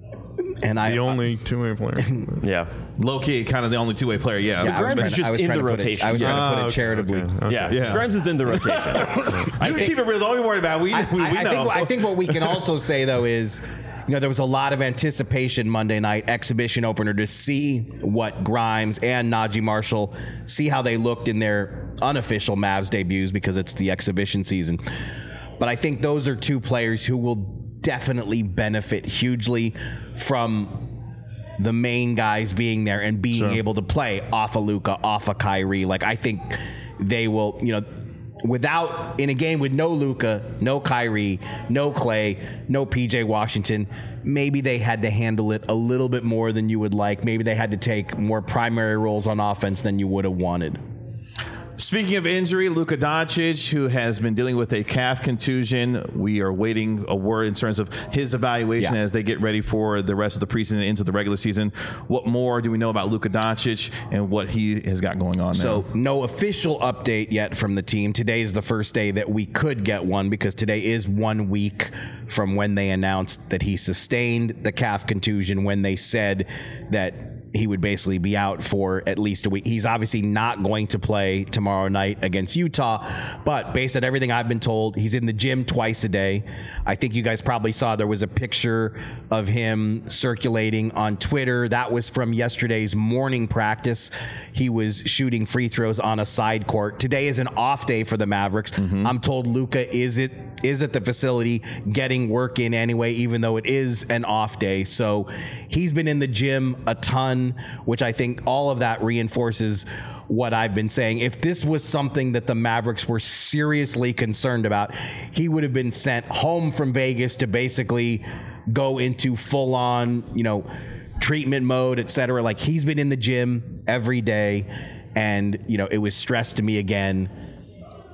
And I the only two-way player. Yeah. low key, kind of the only two-way player. Yeah, Yeah, I was Grimes trying is to- just I was in trying the to put it- rotation. I was trying to Ah, put it okay, charitably. okay, okay. Yeah. Yeah. Grimes is in the rotation. you can keep it real. Don't be worried about it. We, I, we, we I, I know. think, I think what we can also say, though, is you know there was a lot of anticipation Monday night exhibition opener to see what Grimes and Najee Marshall, see how they looked in their unofficial Mavs debuts because it's the exhibition season. But I think those are two players who will definitely benefit hugely from the main guys being there and being Sure. able to play off of Luka, off of Kyrie. Like I think they will, you know, without in a game with no Luka, no Kyrie, no Clay, no P J Washington, maybe they had to handle it a little bit more than you would like. Maybe they had to take more primary roles on offense than you would have wanted. Speaking of injury, Luka Doncic, who has been dealing with a calf contusion, we are waiting a word in terms of his evaluation Yeah. as they get ready for the rest of the preseason and into the regular season. What more do we know about Luka Doncic and what he has got going on So now? no official update yet from the team. Today is the first day that we could get one because today is one week from when they announced that he sustained the calf contusion, when they said that he would basically be out for at least a week. He's obviously not going to play tomorrow night against Utah, but based on everything I've been told, he's in the gym twice a day. I think you guys probably saw there was a picture of him circulating on Twitter. That was from yesterday's morning practice. He was shooting free throws on a side court. Today is an off day for the Mavericks. Mm-hmm. I'm told Luka is it is at the facility getting work in anyway, even though it is an off day. So he's been in the gym a ton, which I think all of that reinforces what I've been saying. If this was something that the Mavericks were seriously concerned about, he would have been sent home from Vegas to basically go into full on, you know, treatment mode, et cetera. Like he's been in the gym every day. And, you know, it was stressed to me again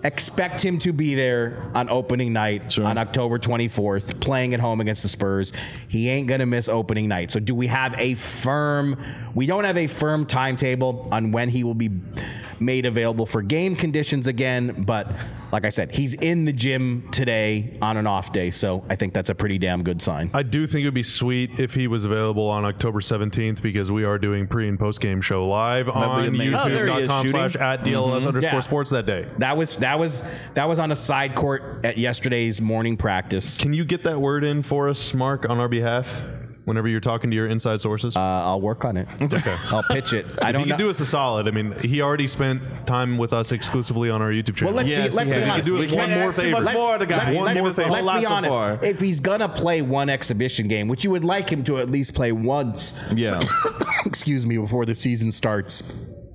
expect him to be there on opening night Sure. on October twenty-fourth, playing at home against the Spurs. He ain't going to miss opening night. So do we have a firm, we don't have a firm timetable on when he will be made available for game conditions again, but like I said, he's in the gym today on an off day, so I think that's a pretty damn good sign. I do think it would be sweet if he was available on October seventeenth because we are doing pre and post game show live on amazing. Oh, there he is, youtube.com slash shooting. at DLS underscore Yeah. sports that day. That was that was that was on a side court at yesterday's morning practice. Can you get that word in for us, Mark, on our behalf? Whenever you're talking to your inside sources, Uh, I'll work on it. okay. I'll pitch it. I If don't you know. can do us a solid. I mean, he already spent time with us exclusively on our YouTube channel. Well, let's Yes, be, let's he be has. honest. do us We can't one more ask too favor. much more of the guy. Let's- He's let's- given us a whole let's lot be so honest. far. If he's gonna play one exhibition game, which you would like him to at least play once, Yeah. excuse me, before the season starts,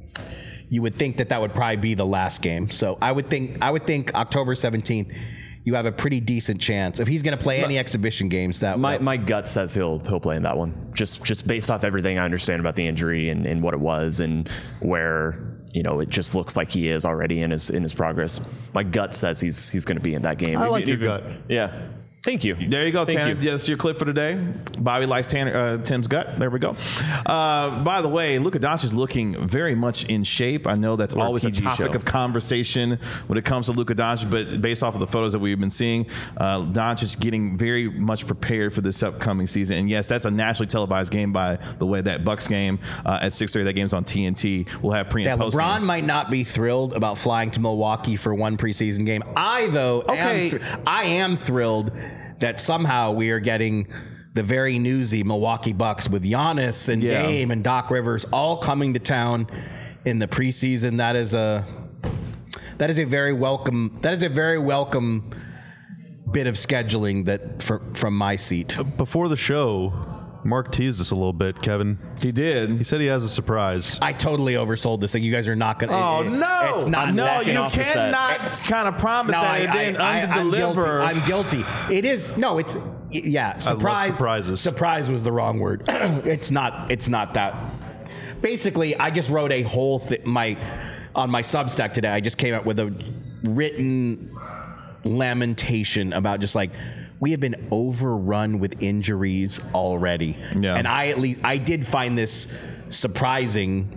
you would think that that would probably be the last game. So I would think I would think October seventeenth, you have a pretty decent chance if he's going to play any exhibition games. That My that- my gut says he'll he'll play in that one. Just just based off everything I understand about the injury and, and what it was and where you know it just looks like he is already in his in his progress. My gut says he's he's going to be in that game. I If like you- your if you- gut. Yeah. Thank you. There you go, Thank Tanner. you. That's your clip for today. Bobby likes Tanner, uh, Tim's gut. There we go. Uh, by the way, Luka Doncic is looking very much in shape. I know that's Or a always a P G topic show. of conversation when it comes to Luka Doncic, but based off of the photos that we've been seeing, uh, Doncic is getting very much prepared for this upcoming season. And yes, that's a nationally televised game, by the way. That Bucks game uh, at six thirty, that game's on T N T. We'll have pre Yeah, and post LeBron game. might not be thrilled about flying to Milwaukee for one preseason game. I, though, Okay. am thr- I am thrilled that somehow we are getting the very newsy Milwaukee Bucks with Giannis and Yeah. Dame and Doc Rivers all coming to town in the preseason. That is a that is a very welcome that is a very welcome bit of scheduling that for, from my seat. Before the show, Mark teased us a little bit, Kevin. He did. He said he has a surprise. I totally oversold this thing. You guys are not going to. Oh no! It's not. no, backing you off the set. cannot kind of promise No, that I, and then I, I, under I'm guilty. deliver. I'm guilty. It is no. It's yeah. Surprise. surprises. Surprise was the wrong word. it's not. It's not that. Basically, I just wrote a whole thing. My on my Substack today. I just came up with a written lamentation about just like we have been overrun with injuries already. Yeah. And I at least I did find this surprising.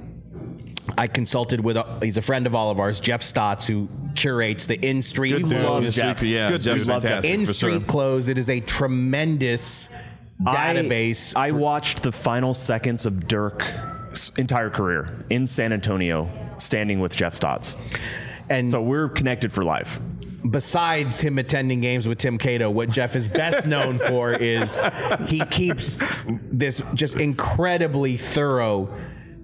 I consulted with a, he's a friend of all of ours, Jeff Stotts, who curates the In Street Good dude. Clothes. Jeff. Yeah, Good Jeff's dude. fantastic. In for Street sure. Clothes. It is a tremendous database. I, I for- watched the final seconds of Dirk's entire career in San Antonio, standing with Jeff Stotts. and So we're connected for life. besides him attending games with Tim Cato, what Jeff is best known for is he keeps this just incredibly thorough,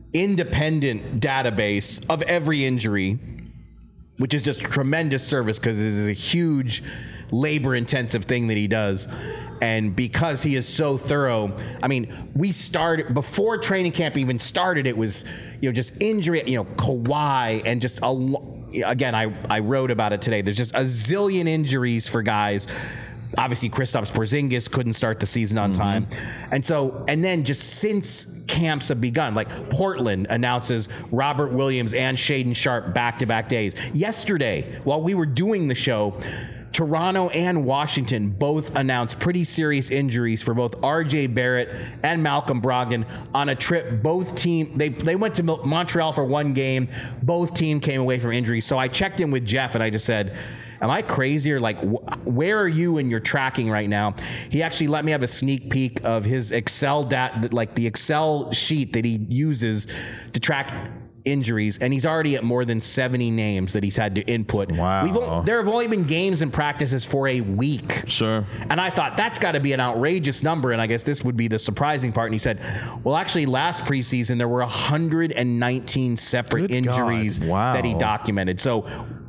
independent database of every injury, which is just tremendous service because it is a huge labor-intensive thing that he does. And because he is so thorough, I mean, we started before training camp even started. It was, you know, just injury, you know, Kawhi, and just a. lo- Again, I I wrote about it today. There's just a zillion injuries for guys. Obviously, Kristaps Porzingis couldn't start the season on time, and so and then just since camps have begun, like Portland announces Robert Williams and Shaedon Sharpe back-to-back days. Yesterday, while we were doing the show, Toronto and Washington both announced pretty serious injuries for both R J Barrett and Malcolm Brogdon on a trip. Both team they they went to Mil- Montreal for one game. Both team came away from injuries. So I checked in with Jeff and I just said, am I crazy or like wh- where are you in your tracking right now? He actually let me have a sneak peek of his Excel dat like the Excel sheet that he uses to track injuries, and he's already at more than seventy names that he's had to input. Wow. We've o- there have only been games and practices for a week. Sure. And I thought that's got to be an outrageous number, and I guess this would be the surprising part. And he said, well, actually, last preseason, there were one hundred nineteen separate Good God. injuries Wow. that he documented. So,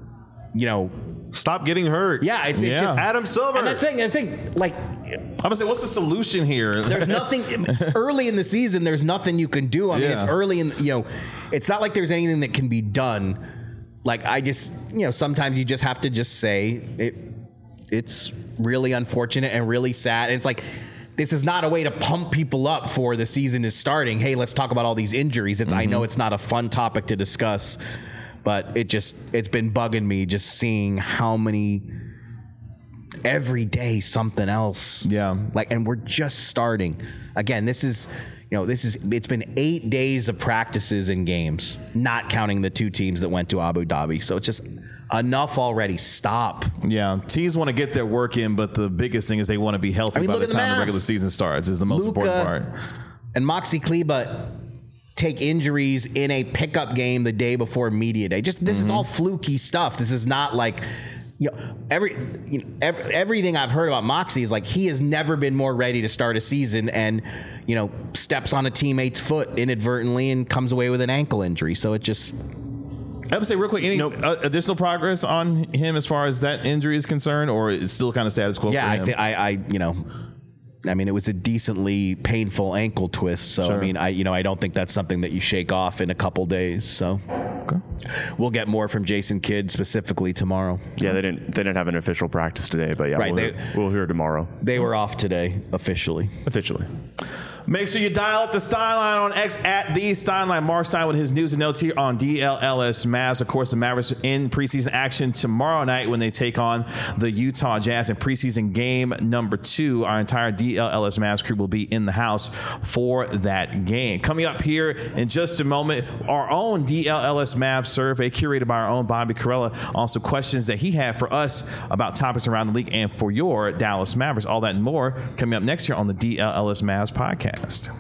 you know, Stop getting hurt. yeah, it's, Yeah. it's just... Adam Silver. And that's the thing, that's the thing, like... I'm gonna say, what's the solution here? There's nothing early in the season. There's nothing you can do. I mean, Yeah. it's early in, you know, it's not like there's anything that can be done. Like I just, you know, sometimes you just have to just say it. It's really unfortunate and really sad. And it's like, this is not a way to pump people up for the season is starting. Hey, let's talk about all these injuries. It's, I know it's not a fun topic to discuss, but it just it's been bugging me just seeing how many every day something else. Yeah. Like, and we're just starting. Again, this is, you know, this is, it's been eight days of practices and games, not counting the two teams that went to Abu Dhabi. So it's just enough already. Stop. Yeah, teams want to get their work in, but the biggest thing is they want to be healthy I mean, by look the at the time the Mavs. regular season starts is the most Luka important part. And Moxie Kleba take injuries in a pickup game the day before media day. Just, this Mm-hmm. is all fluky stuff. This is not like, you know, every, you know, every, everything I've heard about Moxie is like he has never been more ready to start a season and, you know, steps on a teammate's foot inadvertently and comes away with an ankle injury. So it just... I would say real quick, any Nope. uh, additional progress on him as far as that injury is concerned, or it's still kind of status quo Yeah, for I him? think I, I, you know, I mean, it was a decently painful ankle twist. So, Sure. I mean, I, you know, I don't think that's something that you shake off in a couple days. So, Okay. we'll get more from Jason Kidd specifically tomorrow. Yeah, they didn't they didn't have an official practice today, but yeah, Right, we'll, they- hear, we'll hear tomorrow They were off today officially. officially. Make sure you dial up the Steinline on X at the Steinline. Mark Stein with his news and notes here on D L L S Mavs. Of course, the Mavericks in preseason action tomorrow night when they take on the Utah Jazz in preseason game number two. Our entire D L L S Mavs crew will be in the house for that game. Coming up here in just a moment, our own D L L S Mavs survey curated by our own Bobby Carella. Also, questions that he had for us about topics around the league and for your Dallas Mavericks. All that and more coming up next year on the D L L S Mavs podcast.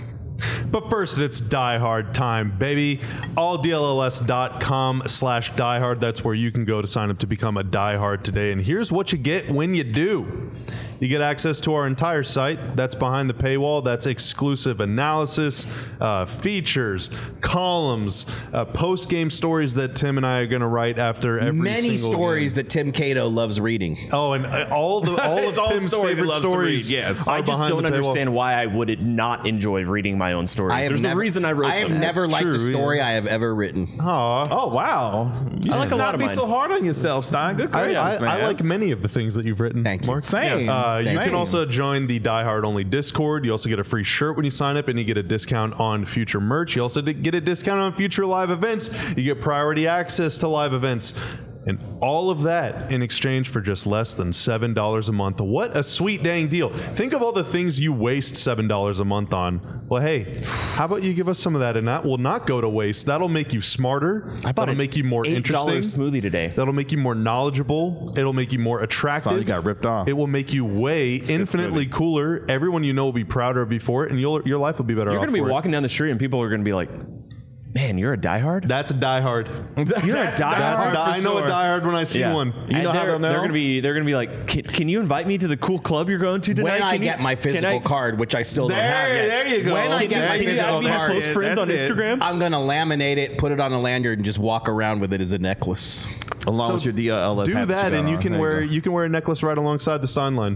But first, it's Die Hard time, baby. all D L L S dot com slash diehard. That's where you can go to sign up to become a diehard today. And here's what you get when you do. You get access to our entire site. That's behind the paywall. That's exclusive analysis, uh, features, columns, uh, post-game stories that Tim and I are going to write after every Many single stories game. that Tim Cato loves reading. Oh, and uh, all the all of It's all Tim's stories he favorite loves to stories. read, yes. are I just behind don't the paywall. understand why I would not enjoy reading my own stories. I have There's never, a reason I wrote I have them. never That's liked true, a story yeah. I have ever written. Aw. Oh, wow. You I like should a lot not of be mine. so hard on yourself, Stein. Good I, gracious, I, man. I like many of the things that you've written. Thank you. Mark. Same. Uh, you Same. can also join the Die Hard Only Discord. You also get a free shirt when you sign up, and you get a discount on future merch. You also get a discount on future live events. You get priority access to live events. And all of that in exchange for just less than seven dollars a month. What a sweet dang deal. Think of all the things you waste seven dollars a month on. Well, hey, how about you give us some of that, and that will not go to waste. That'll make you smarter. I bought That'll an make you more eight dollar interesting. smoothie today. That'll make you more knowledgeable. It'll make you more attractive. Son, you got ripped off. It will make you way infinitely cooler. Everyone you know will be prouder of you for it, and you'll, your life will be better You're off going to be for it. walking down the street and people are going to be like, man, you're a diehard? That's a diehard. You're a That's diehard. a die- I know a diehard when I see Yeah. one. You And know how they're, they'll know? They're gonna be. They're gonna be like, can, can you invite me to the cool club you're going to tonight? When I Can you- get my can physical I- card, which I still don't There, have yet. there you go. When I Can get you- my can you physical add me as card, close friends on That's it. Instagram? I'm going to laminate it, put it on a lanyard, and just walk around with it as a necklace. Along So with your D L L S Do hat that, you and got you on. can There wear go. you can wear a necklace right alongside the Steinline.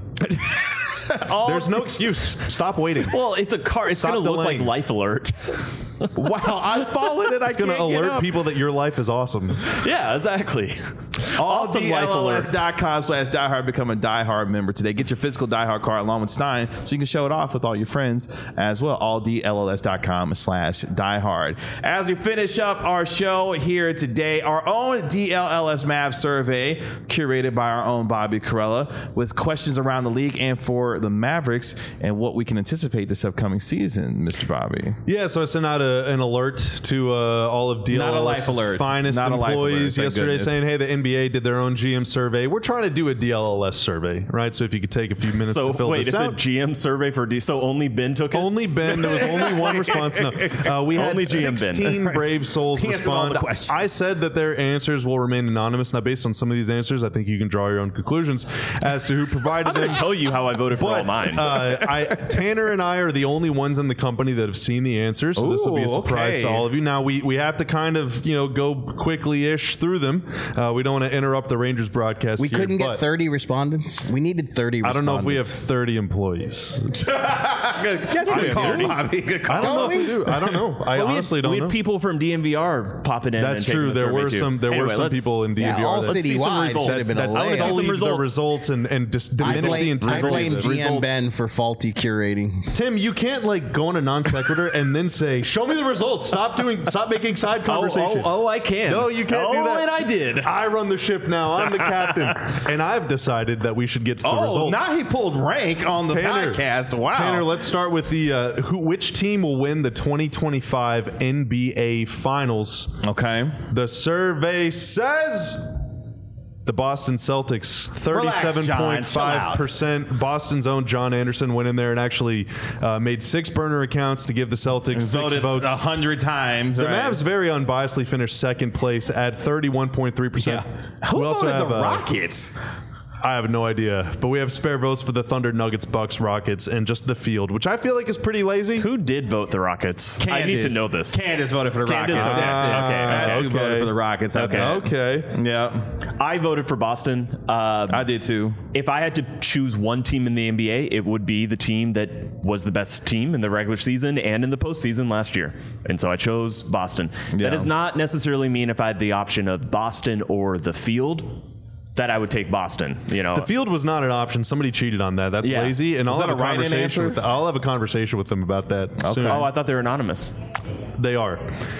There's no excuse. Stop waiting. Well, it's a car. It's Stop gonna look like delaying. Life Alert. Wow, I've fallen and I It's going to can't get alert up. people that your life is awesome. yeah, exactly. All Awesome D Life L L S Alert. dot com slash diehard. Become a diehard member today. Get your physical diehard card along with Stein so you can show it off with all your friends as well. All D L L S dot com slash diehard. As we finish up our show here today, our own D L L S Mavs survey curated by our own Bobby Carella with questions around the league and for the Mavericks and what we can anticipate this upcoming season, Mister Bobby. Yeah, so I sent out a, an alert to uh, all of D L L Not a life S's alert. finest Not a life alert, employees thank yesterday goodness. saying, hey, the N B A did their own G M survey. We're trying to do a D L L S survey, right? So if you could take a few minutes So to fill wait, this it's out. a G M survey for D. So only Ben took it. Only Ben. There was only one response. No, uh, we had Only G M Ben. sixteen brave souls He answered all respond. the questions. I said that their answers will remain anonymous. Now, based on some of these answers, I think you can draw your own conclusions as to who provided I'm going them. to tell you how I voted for all But mine. uh, I, Tanner and I are the only ones in the company that have seen the answers, so this will be a Ooh, surprise okay. to all of you. Now we we have to kind of you know go quickly-ish through them. Uh, we don't want to interrupt the Rangers broadcast. We here, couldn't but get thirty respondents. We needed thirty I respondents. don't know if we have thirty employees. Yes, I good call, do. Bobby. Good call. I don't know if we do. I don't know. I Well, we honestly had, don't we had know. people from D M V R popping in. That's and taking true. the There survey were too. some. There Anyway, were some let's- people in D M V Yeah, R. all that- Let's see some citywide results. should have been That's a I wanna see lot. some only the results. results and and just I diminish the blame, I integrity. blame of it. G M Results. Ben for faulty curating. Tim, you can't like go on a non sequitur and then say, "Show Show me the results. Stop doing. Stop making side Oh, conversation. oh, oh, I can. No, you can't oh, do that. and I did. I run the ship now. I'm the captain, and I've decided that we should get to the Oh, results. now he pulled rank on the Tanner, podcast. Wow. Tanner, let's start with the uh, who. Which team will win the twenty twenty-five N B A Finals? Okay. The survey says the Boston Celtics, thirty-seven point five percent. Boston's own John Anderson went in there and actually uh, made six burner accounts to give the Celtics six Voted votes. a hundred times. The right? Mavs very unbiasedly finished second place at thirty-one point three percent. Who We also voted have, the uh, Rockets? I have no idea, but we have spare votes for the Thunder, Nuggets, Bucks, Rockets, and just the field, which I feel like is pretty lazy. Who did vote the Rockets? I need to know this. Candace voted for the Candace Rockets. voted- That's it. okay, That's okay. who voted for the Rockets. I Okay. bet. Okay. Yeah, I voted for Boston. Uh, I did too. if I had to choose one team in the N B A, it would be the team that was the best team in the regular season and in the postseason last year. And so I chose Boston. Yeah. That does not necessarily mean if I had the option of Boston or the field that I would take Boston. You know, The field was not an option. Somebody cheated on that. That's Yeah. lazy. And Was I'll that have a a write-in conversation answer? with. The, I'll have a conversation with them about that soon. oh, I thought they were anonymous. They are.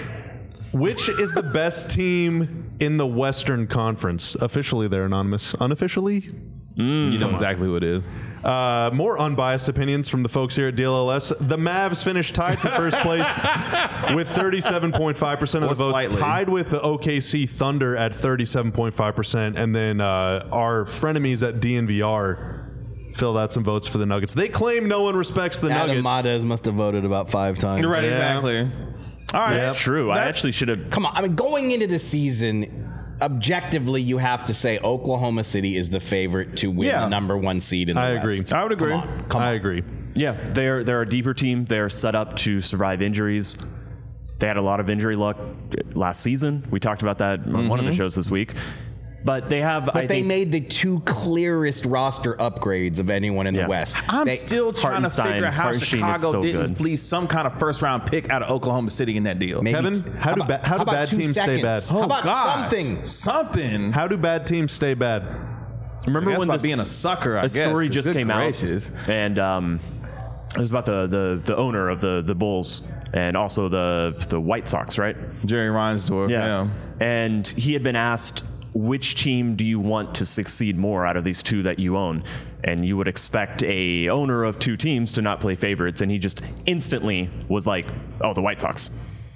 Which is the best team in the Western Conference? Officially, they're anonymous. Unofficially, You know exactly who it is. uh, more unbiased opinions from the folks here at D L L S. The Mavs finished tied for first place with thirty-seven point five percent of Or the votes, slightly. tied with the O K C Thunder at thirty-seven point five percent, and then uh, our frenemies at D N V R filled out some votes for the Nuggets. They claim no one respects the Adam Nuggets. Mades must have voted about five times. Right, Yeah. exactly. All right. That's true. I That- actually should have. Come on, I mean, going into the season, objectively, you have to say Oklahoma City is the favorite to win Yeah. the number one seed in the I West. agree. I would agree. Come on, come I on. agree. Yeah, they're they're a deeper team. They're set up to survive injuries. They had a lot of injury luck last season. We talked about that on one of the shows this week. But they have. But I they think, made the two clearest roster upgrades of anyone in Yeah. the West. I'm They- still trying to Hartenstein- figure out how Hartenstein is Chicago so didn't good. fleece some kind of first round pick out of Oklahoma City in that deal. maybe- Kevin, how do about- ba- how do about bad two teams stay bad? seconds? How about Gosh, something? Something. How do bad teams stay bad? remember I guess when by this, being a sucker, I a guess, story 'cause just good came gracious. out, and um, it was about the, the the owner of the the Bulls and also the the White Sox, right? Jerry Reinsdorf. Yeah. And he had been asked, which team do you want to succeed more out of these two that you own? And you would expect a owner of two teams to not play favorites, and he just instantly was like, "Oh, the White Sox."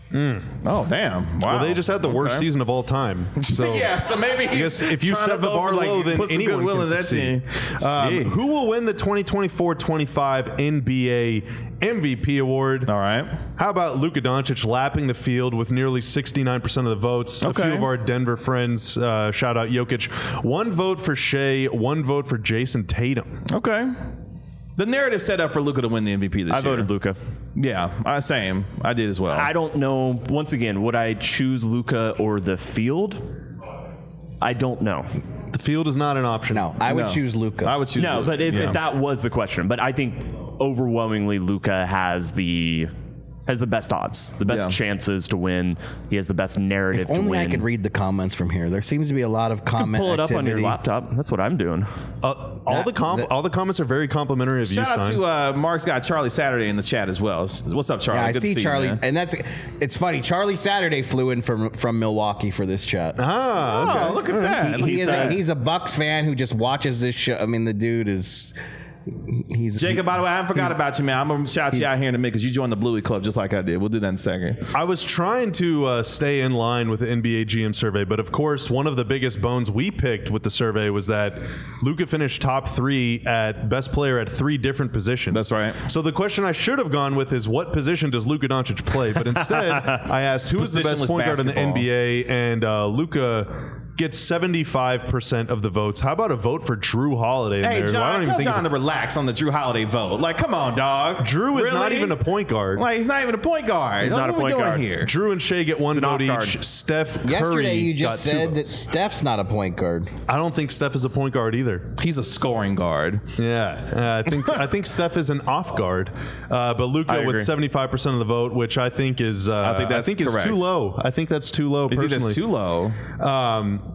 Oh, damn. Wow. Well, they just had the worst Okay. season of all time. So Yeah, so maybe he's guess if you trying set to the vote bar for, like, low, then put some anyone goodwill can in that succeed. team. Um, Jeez. who will win the twenty twenty-four twenty-five N B A M V P award? All right. How about Luka Doncic lapping the field with nearly sixty-nine percent of the votes? A Okay. few of our Denver friends, uh, shout out Jokic. One vote for Shea, one vote for Jason Tatum. Okay. The narrative set up for Luka to win the M V P this I year. voted Luca. Yeah, I same. I did as well. I don't know. Once again, would I choose Luca or the field? I don't know. The field is not an option. No, I would No. choose Luca. I would choose. No, Luka. but if, Yeah. if that was the question, but I think overwhelmingly Luca has the has the best odds, the best Yeah. chances to win. He has the best narrative If to only win. I could read the comments from here. There seems to be a lot of comment Pull it up on activity. your laptop. That's what I'm doing. Uh, all That- the com- that- all the comments are very complimentary of you, Shout out Stein. to uh, Mark's guy Charlie Saturday in the chat as well. What's up, Charlie? Yeah, I Good see to Charlie, you, man. and that's it's funny. Charlie Saturday flew in from from Milwaukee for this chat. ah, okay. Oh, look at that. He, he He's is a, a- he's a Bucks fan who just watches this show. I mean, the dude is he's Jacob, by the way, I haven't forgot about you, man. I'm gonna shout you out here in a minute because you joined the Bluey Club just like I did. We'll do that in a second. I was trying to uh, stay in line with the N B A G M survey, but of course, one of the biggest bones we picked with the survey was that Luka finished top three at best player at three different positions. That's right. So the question I should have gone with is what position does Luka Doncic play? But instead, I asked who is the best Positionless point guard in the basketball. N B A, and uh, Luka gets seventy-five percent of the votes. How about a vote for Drew Holiday in Hey, there? who I John, don't even tell think John is to relax on the Drew Holiday vote. Like, come on, dog. Drew is Really? not even a point guard. Like, he's not even a point guard. He's Like, not a what point we doing guard. here. Drew and Shea get one an vote off guard. each. Steph Curry yesterday. You got just two said that votes. Steph's not a point guard. I don't think Steph is a point guard either. He's a scoring guard. Yeah, uh, I think I think Steph is an off guard, uh, but I Luka agree. with seventy-five percent of the vote, which I think is uh, I think that's is correct. too low. I think that's too low. You think Personally, that's too low? Um,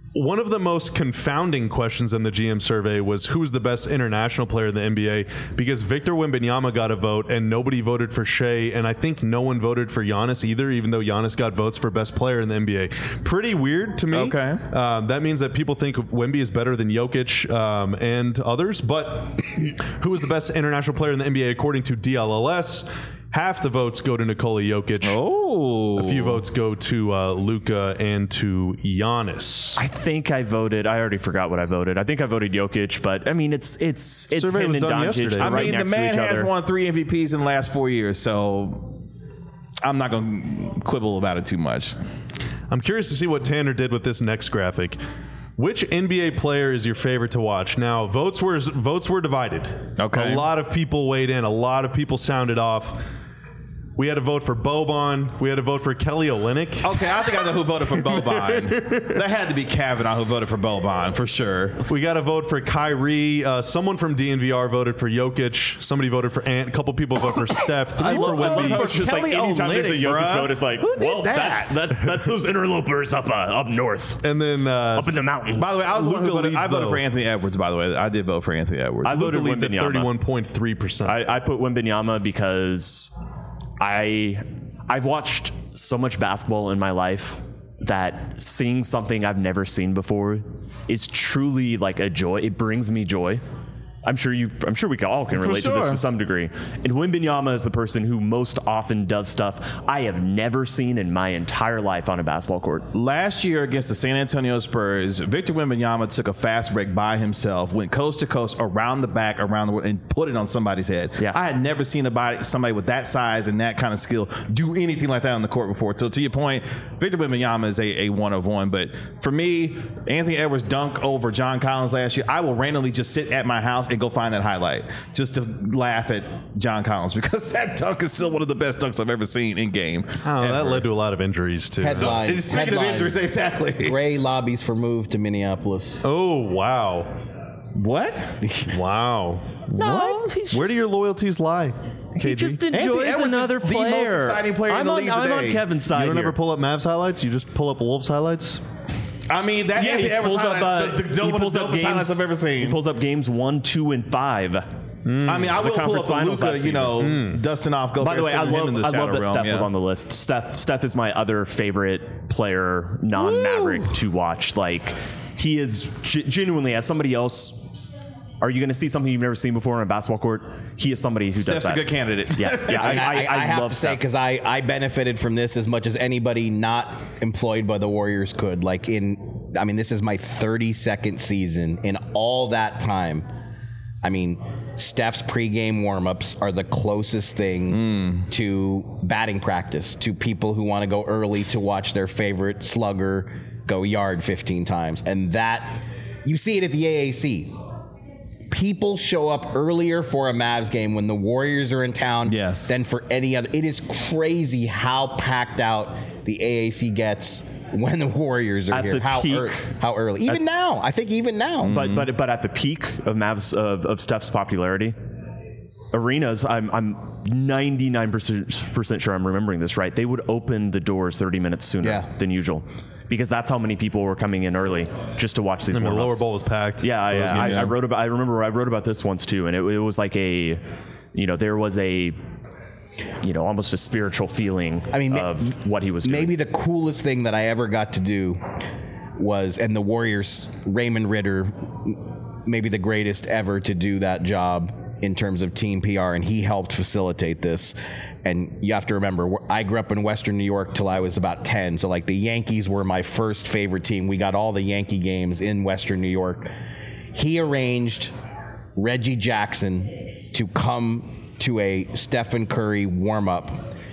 One of the most confounding questions in the G M survey was who's the best international player in the N B A, because Victor Wembanyama got a vote and nobody voted for Shea, and I think no one voted for Giannis either, even though Giannis got votes for best player in the N B A. Pretty weird to me. Okay. Um, that means that people think Wemby is better than Jokic um, and others, but who is the best international player in the N B A according to D L L S? Half the votes go to Nikola Jokic. Oh. A few votes go to uh, Luka and to Giannis. I think I voted. I already forgot what I voted. I think I voted Jokic, but I mean, it's it's it's Survey him was and done Doncic. yesterday. They're I right mean, the next man to each has other. won three M V Ps in the last four years, so I'm not going to quibble about it too much. I'm curious to see what Tanner did with this next graphic. Which N B A player is your favorite to watch? Now, votes were votes were divided. Okay. A lot of people weighed in. A lot of people sounded off. We had a vote for Boban. We had a vote for Kelly Olynyk. Okay, I think I know who voted for Boban. That had to be Kavanaugh who voted for Boban, for sure. We got a vote for Kyrie. Uh, someone from D N V R voted for Jokic. Somebody voted for Ant. A couple people voted for Steph. Three for love Wemby. how It's just Kelly like anytime there's a Olynyk, Jokic bruh. vote, it's like, Who did well, that? that's that's that's those interlopers up uh, up north, And then uh, up in the mountains. By the way, I was the one who Luka voted. I leads, voted though. for Anthony Edwards, by the way. I did vote for Anthony Edwards. I Luka voted leads at Wembanyama. thirty-one point three percent. I, I put Wembanyama because I I've watched so much basketball in my life that seeing something I've never seen before is truly like a joy. It brings me joy. I'm sure you. I'm sure we all can relate to this sure. to some degree. And Wembanyama is the person who most often does stuff I have never seen in my entire life on a basketball court. Last year against the San Antonio Spurs, Victor Wembanyama took a fast break by himself, went coast to coast, around the back, around the world, and put it on somebody's head. Yeah. I had never seen a body, somebody with that size and that kind of skill do anything like that on the court before. So to your point, Victor Wembanyama is a, a one of one. But for me, Anthony Edwards dunk over John Collins last year, I will randomly just sit at my house and go find that highlight just to laugh at John Collins, because that dunk is still one of the best dunks I've ever seen in game. Oh, that led to a lot of injuries, too. Headline. Speaking of Headline. injuries, exactly. Ray lobbies for move to Minneapolis. Oh, wow. What? Wow. No, he's Where just- do your loyalties lie, K G? He just Anthony enjoys Edwards is another the player. most exciting player in I'm the on, league I'm on today. Kevin's side You don't here. ever pull up Mavs highlights? You just pull up Wolves highlights? I mean, that Yeah, Anthony he Edwards pulls up. highlights, Uh, the, the, he the, pulls the up dopest highlights games. I've ever seen. He pulls up games one, two, and five. I mean, I will pull conference up a finals Luka, last you know, dusting off. Go By the way, I him love in the I shadow love that realm, Steph yeah. was on the list. Steph Steph is my other favorite player, non-Maverick, to watch. Like, he is g- genuinely, as somebody else. Are you going to see something you've never seen before on a basketball court? He is somebody who Steph's does that. a good candidate. Yeah, yeah. I, I, I, I have love to say, Steph. because I, I benefited from this as much as anybody not employed by the Warriors could. Like in, I mean, this is my thirty-second season. In all that time, I mean, Steph's pregame warmups are the closest thing Mm. to batting practice, to people who want to go early to watch their favorite slugger go yard fifteen times. And that, you see it at the A A C. People show up earlier for a Mavs game when the Warriors are in town Yes. than for any other. It is crazy how packed out the A A C gets when the Warriors are At here. the how, peak- ear- how early? Even now. I think even now. But but but at the peak of Mavs of, of Steph's popularity, arenas, I'm I'm ninety-nine percent sure I'm remembering this right. They would open the doors thirty minutes sooner Yeah. than usual, because that's how many people were coming in early just to watch these. And the warm-ups. lower bowl was packed. Yeah, Those yeah. I, games. I wrote about. I remember I wrote about this once too, and it, it was like a, you know, there was a, you know, almost a spiritual feeling. I mean, ma- of what he was doing. Maybe the coolest thing that I ever got to do was, and the Warriors, Raymond Ritter, maybe the greatest ever to do that job in terms of team P R, and he helped facilitate this. And you have to remember, I grew up in Western New York till I was about ten, so like the Yankees were my first favorite team. We got all the Yankee games in Western New York. He arranged Reggie Jackson to come to a Stephen Curry warm-up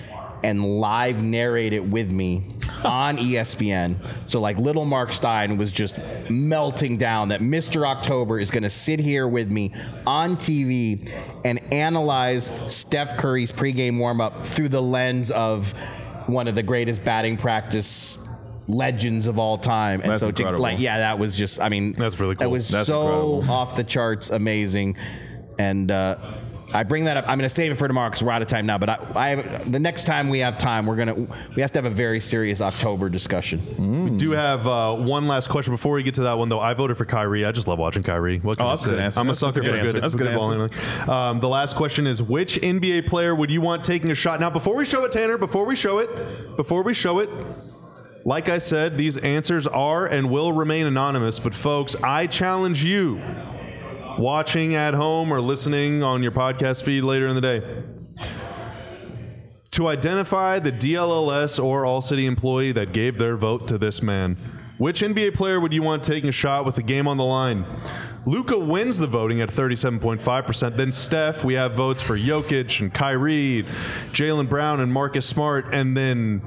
and live narrate it with me on E S P N. So like little Mark Stein was just melting down that Mister October is going to sit here with me on T V and analyze Steph Curry's pregame warm-up through the lens of one of the greatest batting practice legends of all time. And That's so incredible. to, like, yeah, that was just, I mean, That's really That cool. was That's so incredible. off the charts amazing. And uh I bring that up. I'm going to save it for tomorrow because we're out of time now. But I, I, the next time we have time, we're gonna we have to have a very serious October discussion. Mm. We do have uh, one last question before we get to that one, though. I voted for Kyrie. I just love watching Kyrie. What can Oh, I that's a say? good answer. I'm a That's a sucker good for answer. good. That's a good good um, the last question is, which N B A player would you want taking a shot? Now, before we show it, Tanner, before we show it, before we show it, like I said, these answers are and will remain anonymous. But folks, I challenge you, watching at home or listening on your podcast feed later in the day, to identify the D L L S or All-City employee that gave their vote to this man. Which N B A player would you want taking a shot with the game on the line? Luka wins the voting at thirty-seven point five percent. Then Steph, we have votes for Jokic and Kyrie, Jaylen Brown and Marcus Smart. And then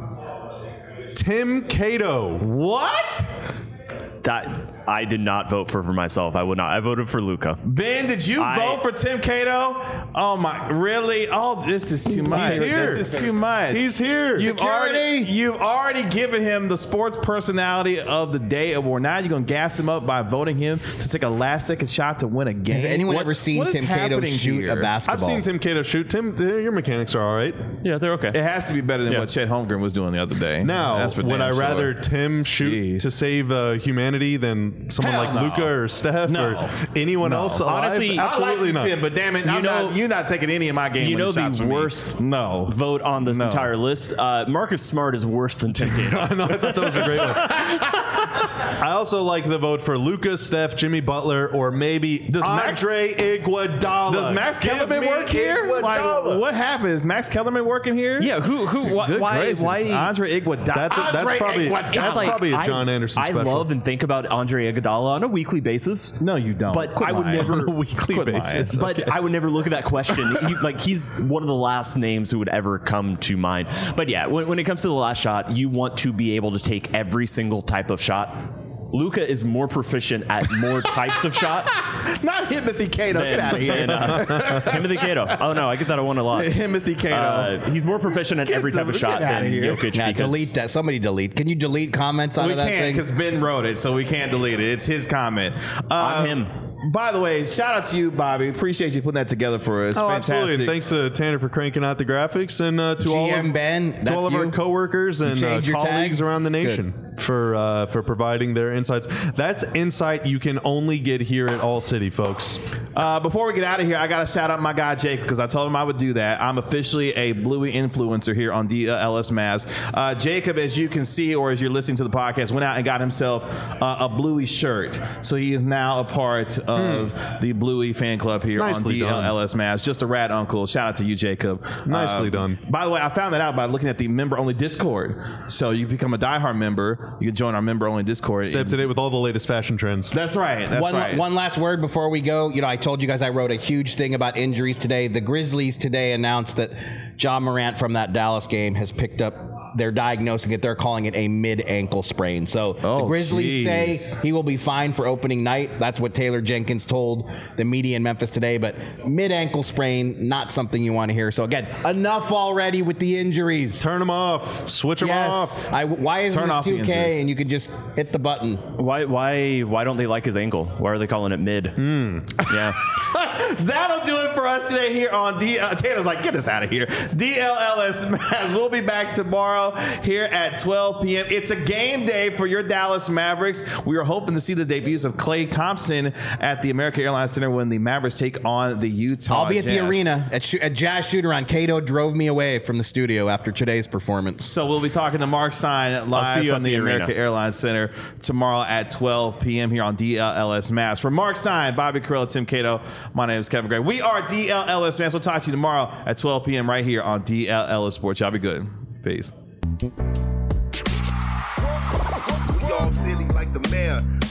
Tim Cato. What? That I did not vote for for myself. I would not. I voted for Luka. Ben, did you I, vote for Tim Cato? Oh my, really? Oh, this is too much. He's here. This is too much. He's here. You've Security. already, you've already given him the sports personality of the day award. Now you're gonna gas him up by voting him to take a last second shot to win a game. Has anyone What- ever seen what is Tim Cato happening shoot here? a basketball? I've seen Tim Cato shoot. Tim, your mechanics are all right. Yeah, they're okay. It has to be better than Yeah. what Chet Holmgren was doing the other day. Now, That's for would damn I sure. rather Tim shoot Jeez. to save uh, humanity than someone Hell like no. Luka or Steph No. or anyone No. else alive? Honestly, I like absolutely you, not. Tim, but damn it, You I'm know- not, you're not taking any of my game. You know winning shots the from me. worst No. vote on this No. entire list. Uh, Marcus Smart is worse than Tim Cato. I know, I thought that was a great one. I also like the vote for Luka, Steph, Jimmy Butler, or maybe Does Max- Andre Iguodala. Does Max Give Kellerman me work here? Like, Iguodala. what happened? Is Max Kellerman working here? Yeah, who who why Good why, gracious. why Andre Iguodala. That's a- that's Andre probably- Iguodala. that's like, probably a I- John Anderson I special. love and think about Andre Iguodala on a weekly basis. No, you don't. But Quit I would lying. never- on a weekly Quit lying. basis. But I would never look at that question. He, like he's one of the last names who would ever come to mind. But yeah, when, when it comes to the last shot, you want to be able to take every single type of shot. Luka is more proficient at more types of shot Not Himothy Cato. than, Get out of here. than uh, Timothy Cato. Oh no, I get that I won a lot. Himothy Cato. Uh, he's more proficient at Get every the- type of get shot outta than here. Jokic. Yeah, because delete that. Somebody delete. Can you delete comments out we of that can't thing? because Ben wrote it, so we can't delete it. It's his comment. Uh, I'm him. By the way, shout out to you, Bobby. Appreciate you putting that together for us. Oh, Fantastic. absolutely. And thanks to Tanner for cranking out the graphics, and uh, to all G M of, Ben, to that's all of our you? coworkers and uh, changed your colleagues tag? around the That's nation for uh, for providing their insights. That's insight you can only get here at All City, folks. Uh, before we get out of here, I got to shout out my guy, Jake, because I told him I would do that. I'm officially a Bluey influencer here on D L S Mavs. Uh, Jacob, as you can see, or as you're listening to the podcast, went out and got himself uh, a Bluey shirt. So he is now a part of Hmm. the Bluey fan club here Nicely on D L S Mavs. Just a rad uncle. Shout out to you, Jacob. Nicely Um, done. By the way, I found that out by looking at the member-only Discord. So you become a diehard member. You can join our member-only Discord. Stay up to date with all the latest fashion trends. That's right. That's one, right. one last word before we go. You know, I told you guys I wrote a huge thing about injuries today. The Grizzlies today announced that Ja Morant from that Dallas game has picked up. They're diagnosing it. They're calling it a mid-ankle sprain. So Oh, the Grizzlies geez. say he will be fine for opening night. That's what Taylor Jenkins told the media in Memphis today. But mid-ankle sprain, not something you want to hear. So again, enough already with the injuries. Turn them off. Switch them yes. off. I, why isn't Turn this off the two K injuries. and you could just hit the button? Why why why don't they like his ankle? Why are they calling it mid? Yeah. That'll do it for us today here on D. Uh, Taylor's like, get us out of here. D L L S Mavs. We'll be back tomorrow here at twelve p.m. It's a game day for your Dallas Mavericks. We are hoping to see the debuts of Klay Thompson at the American Airlines Center when the Mavericks take on the Utah I'll be at the Jazz. arena at, sh- at Jazz Shoot-Around. Cato drove me away from the studio after today's performance. So we'll be talking to Mark Stein live see you from at the, the arena. American Airlines Center tomorrow at twelve p.m. here on D L L S Mavs. For Mark Stein, Bobby Carella, Tim Cato, my name is Kevin Gray. We are D L L S Mavs. We'll talk to you tomorrow at twelve p.m. right here on D L L S Sports. Y'all be good. Peace. We all silly like the mayor.